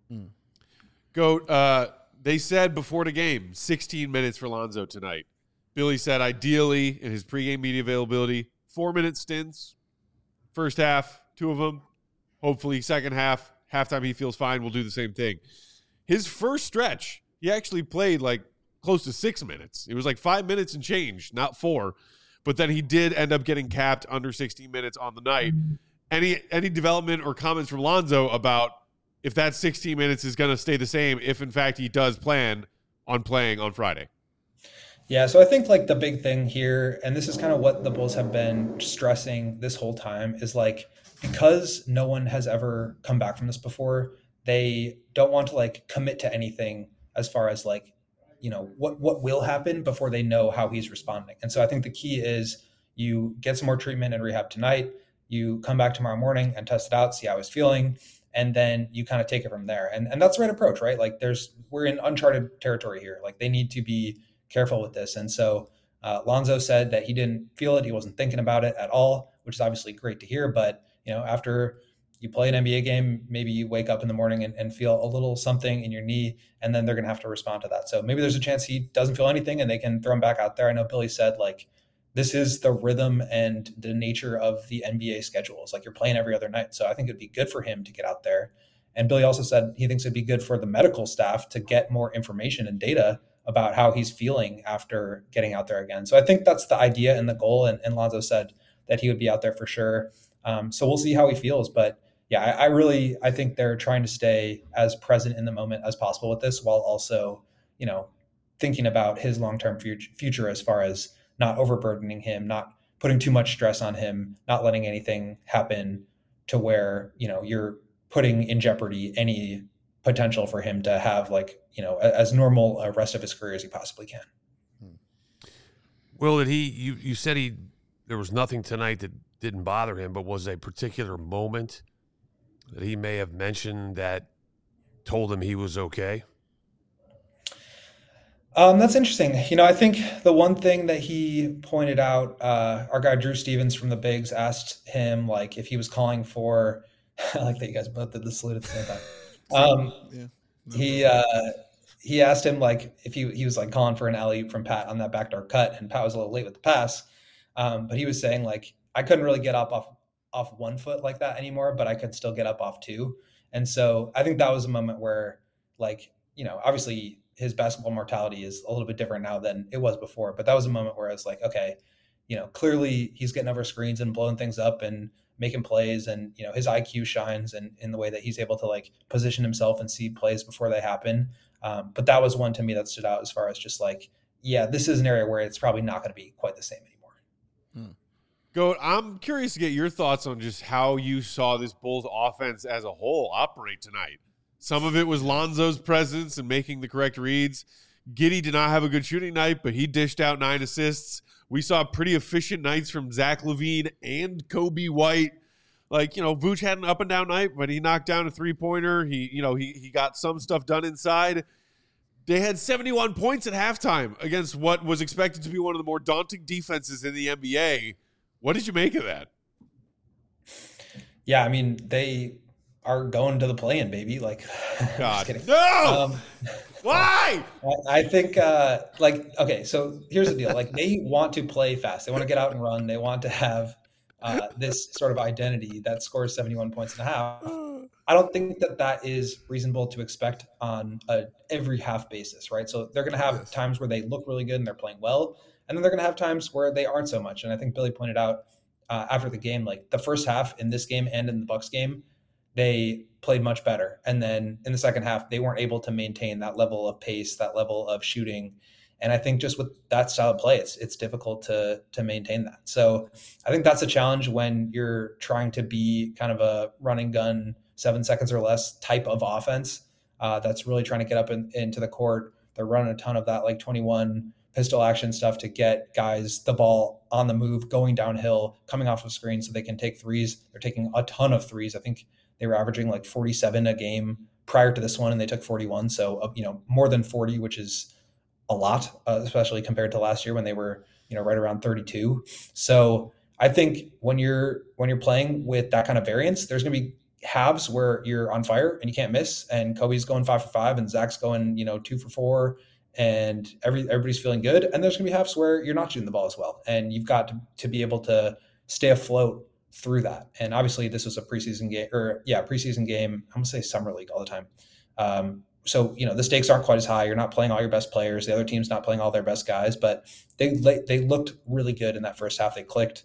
Goat, they said before the game, 16 minutes for Lonzo tonight. Billy said ideally in his pregame media availability, 4-minute stints. First half, 2 of them. Hopefully second half, halftime he feels fine. We'll do the same thing. His first stretch, he actually played like close to 6 minutes. It was like 5 minutes and change, not 4. but then he did end up getting capped under 16 minutes on the night. Any development or comments from Lonzo about if that 16 minutes is going to stay the same if, in fact, he does plan on playing on Friday? Yeah, so I think like the big thing here, and this is kind of what the Bulls have been stressing this whole time, is like because no one has ever come back from this before, they don't want to like commit to anything as far as like, you know, what will happen before they know how he's responding. And so I think the key is you get some more treatment and rehab tonight, you come back tomorrow morning and test it out, see how he's feeling, and then you kind of take it from there. And that's the right approach, right? Like we're in uncharted territory here. Like they need to be careful with this. And so Lonzo said that he didn't feel it. He wasn't thinking about it at all, which is obviously great to hear. But, you know, after you play an NBA game, maybe you wake up in the morning and feel a little something in your knee, and then they're going to have to respond to that. So maybe there's a chance he doesn't feel anything and they can throw him back out there. I know Billy said like, this is the rhythm and the nature of the NBA schedule. It's like you're playing every other night. So I think it'd be good for him to get out there. And Billy also said he thinks it'd be good for the medical staff to get more information and data about how he's feeling after getting out there again. So I think that's the idea and the goal. And Lonzo said that he would be out there for sure. So we'll see how he feels. But yeah, I think they're trying to stay as present in the moment as possible with this, while also, you know, thinking about his long-term future as far as not overburdening him, not putting too much stress on him, not letting anything happen to where, you know, you're putting in jeopardy any potential for him to have like, you know, as normal a rest of his career as he possibly can. Will, you said there was nothing tonight that didn't bother him, but was a particular moment that he may have mentioned that told him he was okay? That's interesting. You know, I think the one thing that he pointed out, our guy Drew Stevens from the Bigs asked him like if he was calling for, I like that you guys both did the salute at the same time. He asked him like if he was like calling for an alley-oop from Pat on that backdoor cut, and Pat was a little late with the pass. But he was saying like, I couldn't really get up off 1 foot like that anymore, but I could still get up off 2. And so I think that was a moment where like, you know, obviously his basketball mortality is a little bit different now than it was before. But that was a moment where I was like, okay, you know, clearly he's getting over screens and blowing things up and making plays, and, you know, his IQ shines in the way that he's able to like position himself and see plays before they happen. But that was one to me that stood out as far as just like, yeah, this is an area where it's probably not going to be quite the same anymore. Goat, I'm curious to get your thoughts on just how you saw this Bulls offense as a whole operate tonight. Some of it was Lonzo's presence and making the correct reads. Giddey did not have a good shooting night, but he dished out 9 assists. We saw pretty efficient nights from Zach LaVine and Kobe White. Like, you know, Vooch had an up and down night, but he knocked down a 3-pointer. He got some stuff done inside. They had 71 points at halftime against what was expected to be one of the more daunting defenses in the NBA. What did you make of that? Yeah, I mean, they are going to the play-in, baby. Like, God, just kidding. No! Why? I think, okay, so here's the deal. Like, they want to play fast. They want to get out and run. They want to have this sort of identity that scores 71 points and a half. I don't think that is reasonable to expect on a every half basis, right? So they're going to have times where they look really good and they're playing well, and then they're going to have times where they aren't so much. And I think Billy pointed out after the game, like the first half in this game and in the Bucks game, they played much better. And then in the second half, they weren't able to maintain that level of pace, that level of shooting. And I think just with that style of play, it's difficult to maintain that. So I think that's a challenge when you're trying to be kind of a running gun, 7 seconds or less type of offense that's really trying to get up into the court. They're running a ton of that like 21 pistol action stuff to get guys the ball on the move, going downhill, coming off of screen so they can take threes. They're taking a ton of threes. I think they were averaging like 47 a game prior to this one, and they took 41. So, more than 40, which is a lot, especially compared to last year when they were, right around 32. So I think when you're playing with that kind of variance, there's going to be halves where you're on fire and you can't miss, and Kobe's going 5 for 5 and Zach's going, 2 for 4, and everybody's feeling good. And there's going to be halves where you're not shooting the ball as well, and you've got to be able to stay afloat through that. And obviously this was a preseason game. I'm gonna say summer league all the time. so, the stakes aren't quite as high. You're not playing all your best players. The other team's not playing all their best guys, but they looked really good in that first half. They clicked.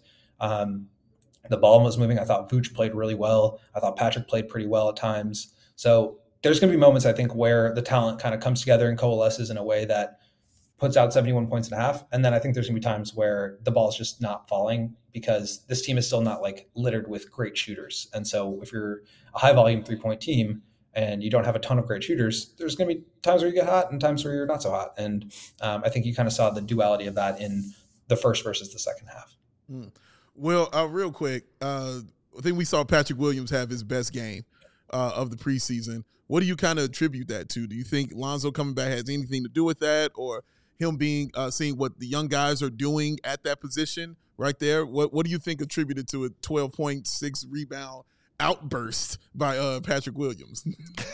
The ball was moving. I thought Vooch played really well. I thought Patrick played pretty well at times. So there's going to be moments, I think, where the talent kind of comes together and coalesces in a way that puts out 71 points and a half. And then I think there's going to be times where the ball is just not falling because this team is still not like littered with great shooters. And so if you're a high volume 3-point team and you don't have a ton of great shooters, there's going to be times where you get hot and times where you're not so hot. And I think you kind of saw the duality of that in the first versus the second half. Well, real quick, I think we saw Patrick Williams have his best game of the preseason. What do you kind of attribute that to? Do you think Lonzo coming back has anything to do with that, or him being seeing what the young guys are doing at that position right there? What do you think attributed to a 12.6 rebound outburst by Patrick Williams?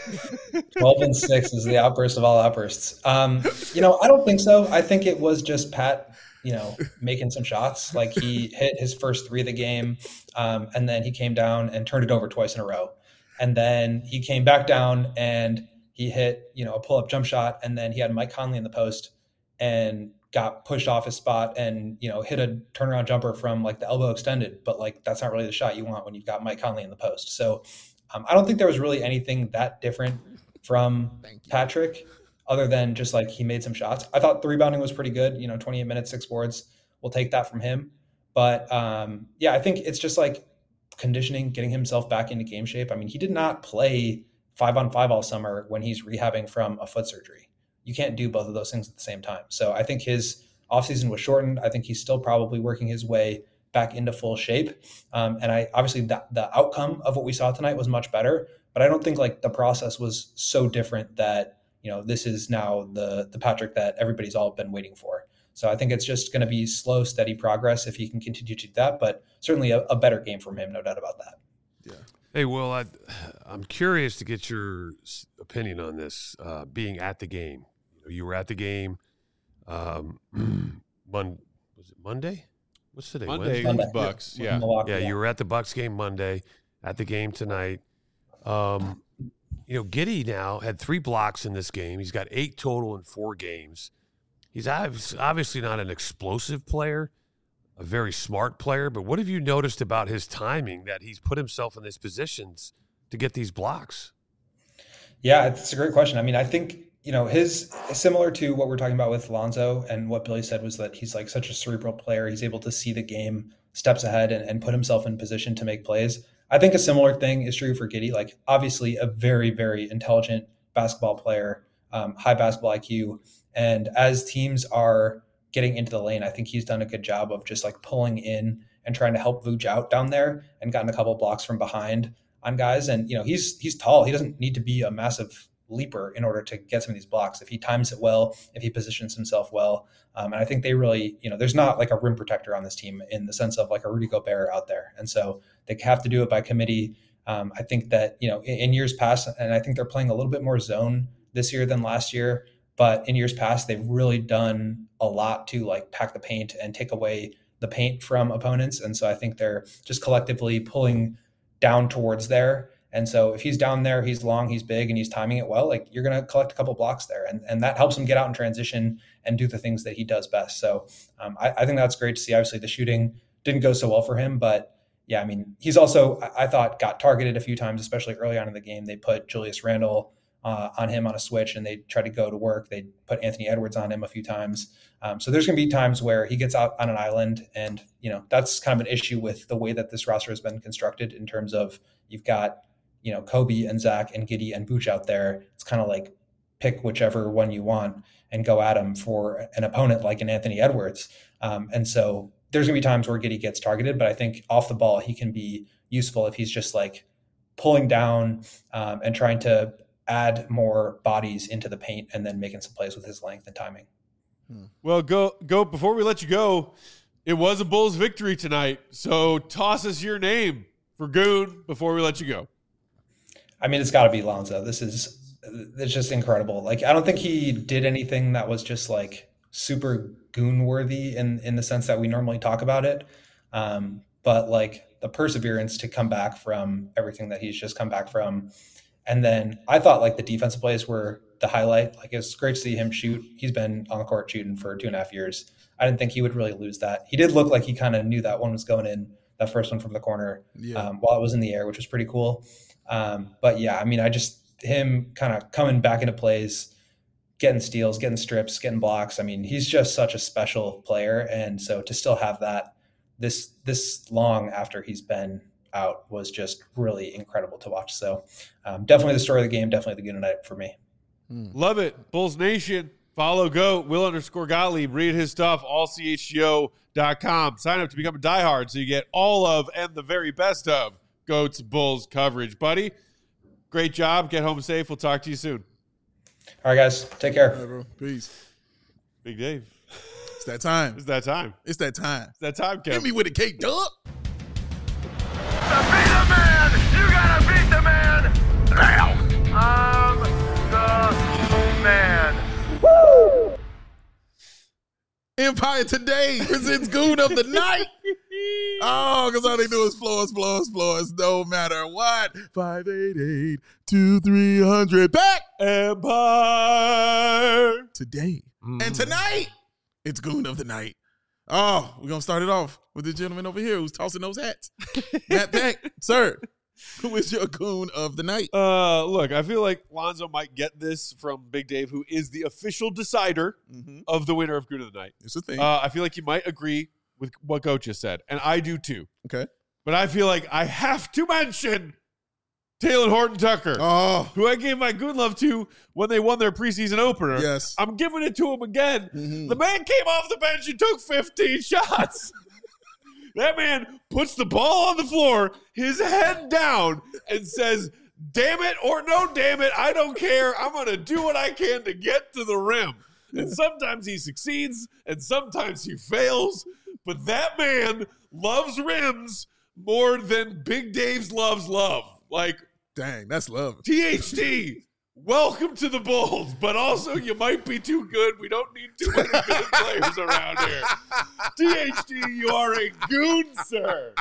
12 and 6 is the outburst of all outbursts. I don't think so. I think it was just Pat, making some shots. Like he hit his first 3 of the game, and then he came down and turned it over twice in a row. And then he came back down and he hit, a pull-up jump shot, and then he had Mike Conley in the post and got pushed off his spot and, hit a turnaround jumper from like the elbow extended. But like, that's not really the shot you want when you've got Mike Conley in the post. So I don't think there was really anything that different from Patrick other than just like he made some shots. I thought the rebounding was pretty good, 28 minutes, 6 boards. We'll take that from him. But I think it's just like conditioning, getting himself back into game shape. I mean, he did not play 5-on-5 all summer when he's rehabbing from a foot surgery. You can't do both of those things at the same time. So I think his offseason was shortened. I think he's still probably working his way back into full shape. And obviously the outcome of what we saw tonight was much better, but I don't think like the process was so different that, this is now the Patrick that everybody's all been waiting for. So I think it's just going to be slow, steady progress if he can continue to do that, but certainly a better game from him, no doubt about that. Yeah. Hey, Will, I'm curious to get your opinion on this, being at the game. You were at the game. Was it Monday? What's today? Monday, Monday. Bucks. With Yeah. Milwaukee, Yeah, you were at the Bucks game Monday, at the game tonight. Giddey now had 3 blocks in this game. He's got 8 total in 4 games. He's obviously not an explosive player, a very smart player, but what have you noticed about his timing that he's put himself in these positions to get these blocks? Yeah, it's a great question. I mean, I think, his similar to what we're talking about with Lonzo, and what Billy said was that he's like such a cerebral player. He's able to see the game steps ahead and put himself in position to make plays. I think a similar thing is true for Giddey. Like obviously a very, very intelligent basketball player, high basketball IQ. And as teams are getting into the lane, I think he's done a good job of just like pulling in and trying to help Vooch out down there and gotten a couple of blocks from behind on guys. And, he's tall. He doesn't need to be a massive leaper in order to get some of these blocks. If he times it well, if he positions himself well. And I think they really, there's not like a rim protector on this team in the sense of like a Rudy Gobert out there. And so they have to do it by committee. I think that, in years past, and I think they're playing a little bit more zone this year than last year, but in years past, they've really done a lot to like pack the paint and take away the paint from opponents. And so I think they're just collectively pulling down towards there. And so if he's down there, he's long, he's big, and he's timing it well, like you're going to collect a couple blocks there. And that helps him get out in transition and do the things that he does best. So I think that's great to see. Obviously the shooting didn't go so well for him, but yeah, I mean, he's also, I thought, got targeted a few times, especially early on in the game. They put Julius Randle on him on a switch, and they tried to go to work. They put Anthony Edwards on him a few times. So there's going to be times where he gets out on an island, and that's kind of an issue with the way that this roster has been constructed in terms of you've got Kobe and Zach and Giddey and Vooch out there. It's kind of like pick whichever one you want and go at him for an opponent like an Anthony Edwards. And so there's going to be times where Giddey gets targeted, but I think off the ball he can be useful if he's just like pulling down and trying to add more bodies into the paint and then making some plays with his length and timing. Well, go before we let you go. It was a Bulls victory tonight, so toss us your name for Goon before we let you go. I mean, it's got to be Lonzo. It's just incredible. Like, I don't think he did anything that was just like super Goon worthy in the sense that we normally talk about it. But like the perseverance to come back from everything that he's just come back from. And then I thought like the defensive plays were the highlight. Like, it's great to see him shoot. He's been on the court shooting for 2.5 years. I didn't think he would really lose that. He did look like he kind of knew that one was going in, that first one from the corner, while it was in the air, which was pretty cool. But yeah, I mean, him kind of coming back into plays, getting steals, getting strips, getting blocks. I mean, he's just such a special player. And so to still have that this long after he's been out was just really incredible to watch. So definitely the story of the game, definitely the good night for me. Love it. Bulls Nation. Follow GOAT, Will_Gottlieb. Read his stuff, allchgo.com. Sign up to become a diehard so you get all of and the very best of GOAT's Bulls coverage. Buddy, great job. Get home safe. We'll talk to you soon. All right, guys. Take care. All right, bro. Peace. Big Dave. It's that time. It's that time. It's that time. It's that time, Kevin. Hit me with a K-Dub. To be the man, you gotta beat the man now. I'm the man. Woo! Empire Today presents Goon of the Night. Oh, because all they do is floor us, no matter what. 588-2300. Back Empire today. And tonight, it's Goon of the Night. Oh, we're going to start it off with the gentleman over here who's tossing those hats. Matt Peck, sir, who is your Goon of the Night? Look, I feel like Lonzo might get this from Big Dave, who is the official decider of the winner of Goon of the Night. It's a thing. I feel like you might agree with what Goat just said, and I do too. Okay. But I feel like I have to mention Taylor Horton-Tucker, who I gave my good love to when they won their preseason opener. Yes. I'm giving it to him again. The man came off the bench and took 15 shots. That man puts the ball on the floor, his head down, and says, damn it or no damn it, I don't care. I'm going to do what I can to get to the rim. And sometimes he succeeds, and sometimes he fails. But that man loves rims more than Big Dave's loves love. Like, dang, that's love. THT, welcome to the Bulls, but also you might be too good. We don't need too many good players around here. THT, you are a goon, sir.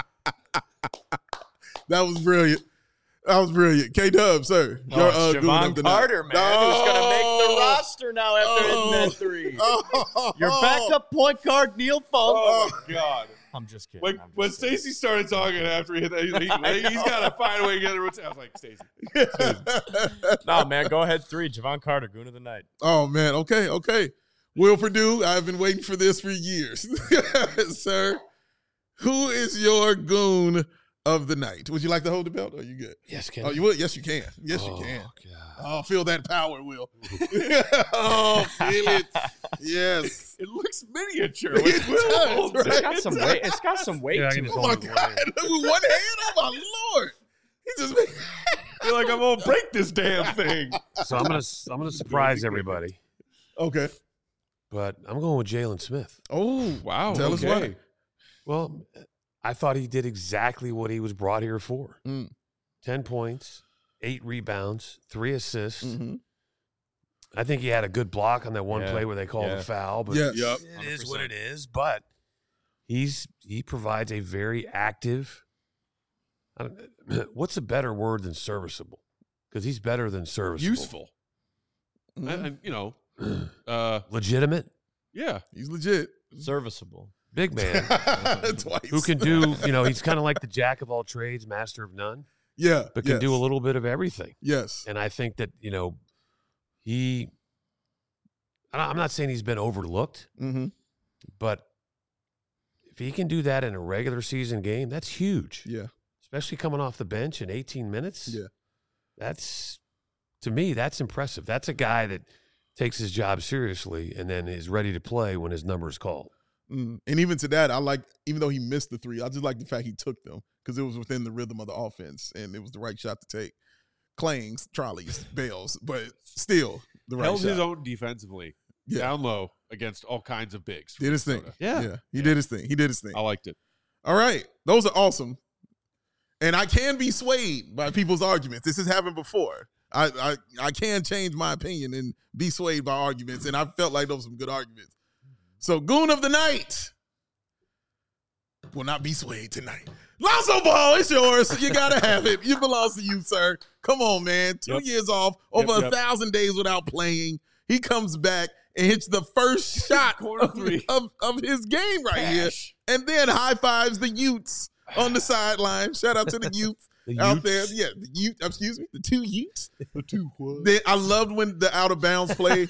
That was brilliant. K-Dub, sir. Javon Carter, man, who's going to make the roster now after hitting that three. Your backup point guard, Neil Funk. Oh, my God. I'm just kidding. When Stacey started talking after he hit that, he's got to find a way to get the routine. I was like, Stacey. No, man, go ahead. 3, Javon Carter, Goon of the Night. Oh, man. Okay. Will Purdue, I've been waiting for this for years. Sir, who is your Goon of the Night? Would you like to hold the belt? Or are you good? Yes, can Oh, you would? Yes, you can. Yes, you can. Oh, feel that power, Will. Oh, feel it. Yes. It looks miniature. It does, right? It's got some weight. It's got some weight Yeah, I to can it. just Oh, my hold it with one God. hand. With one hand? Oh, my Lord. He just made... I feel like I'm going to break this damn thing. So I'm gonna surprise everybody, Okay. but I'm going with Jalen Smith. Oh, Wow. Tell us why. Well, I thought he did exactly what he was brought here for. 10 points, 8 rebounds, 3 assists. I think he had a good block on that one play where they called a foul. But Yes. Yep. it is what it is. But he provides a very active. What's a better word than serviceable? Because he's better than serviceable. Useful. And, Legitimate. Yeah. He's legit. Serviceable. Big man. Twice. Who can do, he's kind of like the jack of all trades, master of none, Yeah. but can do a little bit of everything. Yes. And I think that, I'm not saying he's been overlooked, but if he can do that in a regular season game, that's huge. Yeah. Especially coming off the bench in 18 minutes. Yeah. To me, that's impressive. That's a guy that takes his job seriously and then is ready to play when his number is called. And even to that, even though he missed the 3, I just like the fact he took them because it was within the rhythm of the offense and it was the right shot to take. Clangs, trolleys, bails, but still the right Held shot. his own defensively. Yeah. Down low against all kinds of bigs. Did his thing. Minnesota. Yeah. He did his thing. I liked it. All right. Those are awesome. And I can be swayed by people's arguments. This has happened before. I can change my opinion and be swayed by arguments, and I felt like those were some good arguments. So, Goon of the Night. will not be swayed tonight. Lonzo Ball, it's yours. You got to have it. It belongs to you, sir. Come on, man. 2 years off, over 1,000 days without playing. He comes back and hits the first shot of his game right here. And then high fives the Utes on the sideline. Shout out to the Utes out there. Yeah, the 2 Utes. The 2 what? I loved when the out of bounds play.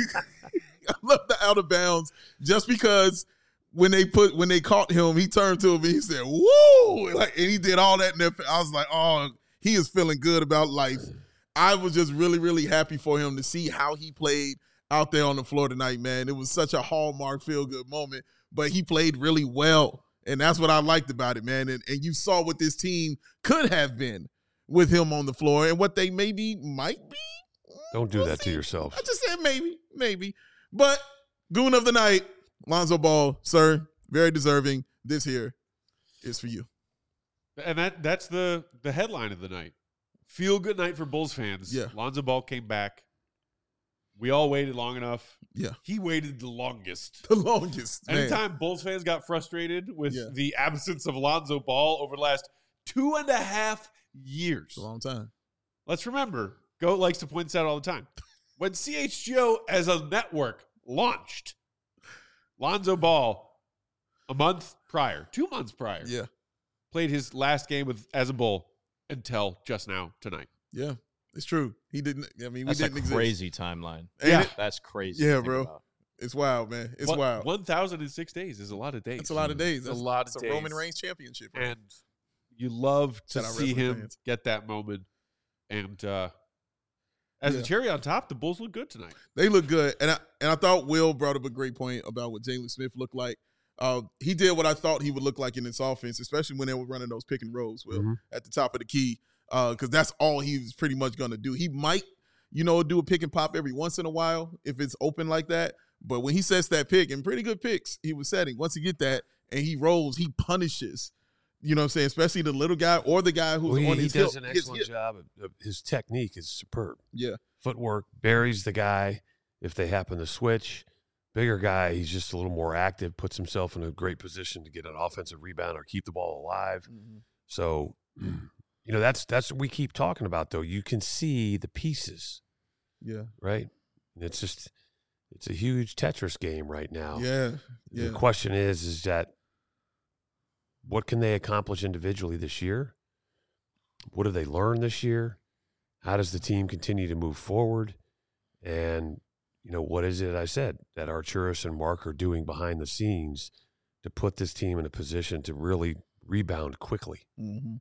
I love the out of bounds just because when they caught him, he turned to him and he said, "Woo!" And he did all that. And I was like, "Oh, he is feeling good about life." I was just really, really happy for him to see how he played out there on the floor tonight, man. It was such a hallmark feel-good moment, but he played really well, and that's what I liked about it, man. And you saw what this team could have been with him on the floor and what they might be. Don't do that to yourself. I just said maybe. But Goon of the Night, Lonzo Ball, sir, very deserving. This here is for you. And that's the headline of the night. Feel good night for Bulls fans. Yeah. Lonzo Ball came back. We all waited long enough. Yeah. He waited the longest. Man. Anytime Bulls fans got frustrated with the absence of Lonzo Ball over the last 2.5 years. It's a long time. Let's remember, Goat likes to point this out all the time. When CHGO as a network launched, Lonzo Ball, 2 months prior, played his last game as a Bull until just now tonight. Yeah, it's true. He didn't. I mean, that's we didn't exist. Crazy timeline. Yeah, that's crazy. Yeah, bro. About. It's wild, man. It's wild. 1,006 days is a lot of days. That's a lot of days. That's a lot of days. It's a Roman Reigns championship, right? And you love to see him get that moment. And as a cherry on top, the Bulls look good tonight. They look good, and I thought Will brought up a great point about what Jalen Smith looked like. He did what I thought he would look like in this offense, especially when they were running those pick and rolls, Will, at the top of the key, because that's all he was pretty much going to do. He might, do a pick and pop every once in a while if it's open like that. But when he sets that pick, and pretty good picks he was setting, once he get that and he rolls, he punishes. You know what I'm saying? Especially the little guy or the guy who's on his hip. He does an excellent job. His technique is superb. Yeah. Footwork, buries the guy if they happen to switch. Bigger guy, he's just a little more active, puts himself in a great position to get an offensive rebound or keep the ball alive. Mm-hmm. So, that's what we keep talking about, though. You can see the pieces. Yeah. Right? And it's a huge Tetris game right now. Yeah. The question is that what can they accomplish individually this year? What have they learned this year? How does the team continue to move forward? And, what is it I said that Arturas and Mark are doing behind the scenes to put this team in a position to really rebound quickly? Mm-hmm.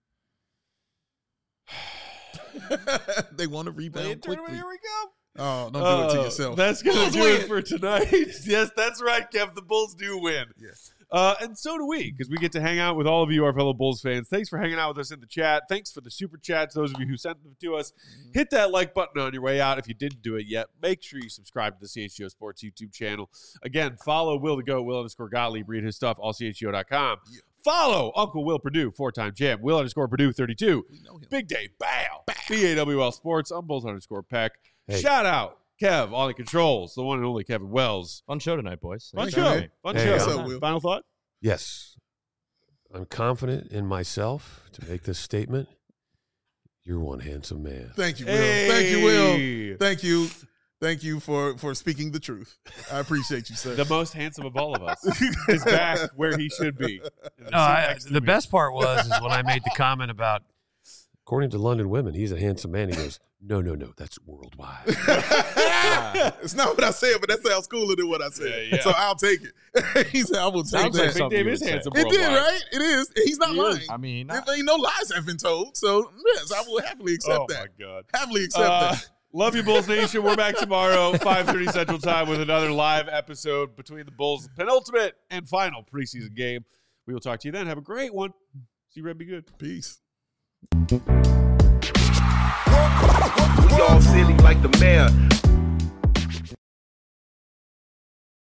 They want to rebound quickly. Here we go. Oh, don't do it to yourself. That's going to do it for tonight. Yes, that's right, Kev. The Bulls do win. Yes. And so do we, because we get to hang out with all of you, our fellow Bulls fans. Thanks for hanging out with us in the chat. Thanks for the super chats, those of you who sent them to us. Hit that like button on your way out if you didn't do it yet. Make sure you subscribe to the CHGO Sports YouTube channel. Again, follow Will to Go, Will_Gottlieb. Read his stuff, allchgo.com. Yeah. Follow Uncle Will Purdue, 4-time champ, Will_Purdue 32. Big Day, Bow. BAWL Sports, I'm Bulls_Peck. Hey. Shout out Kev on the controls, the one and only Kevin Wells. Fun show tonight, boys. Fun show. Will. Final thought? Yes. I'm confident in myself to make this statement. You're one handsome man. Thank you, Will. Hey. Thank you, Will. Thank you. Thank you for speaking the truth. I appreciate you, sir. The most handsome of all of us is back where he should be. The best part was when I made the comment about, according to London Women, he's a handsome man. He goes, no, that's worldwide. It's not what I said, but that sounds cooler than what I said. Yeah. So I'll take it. He said, I will take that. Big Dave is handsome. It did, right? It is. He's not lying. I mean, there ain't no lies have been told. So, yes, I will happily accept that. Oh, my God. Happily accept that. Love you, Bulls Nation. We're back tomorrow, 5:30 Central Time, with another live episode between the Bulls' penultimate and final preseason game. We will talk to you then. Have a great one. See you, Red. Be good. Peace. We all silly like the mayor.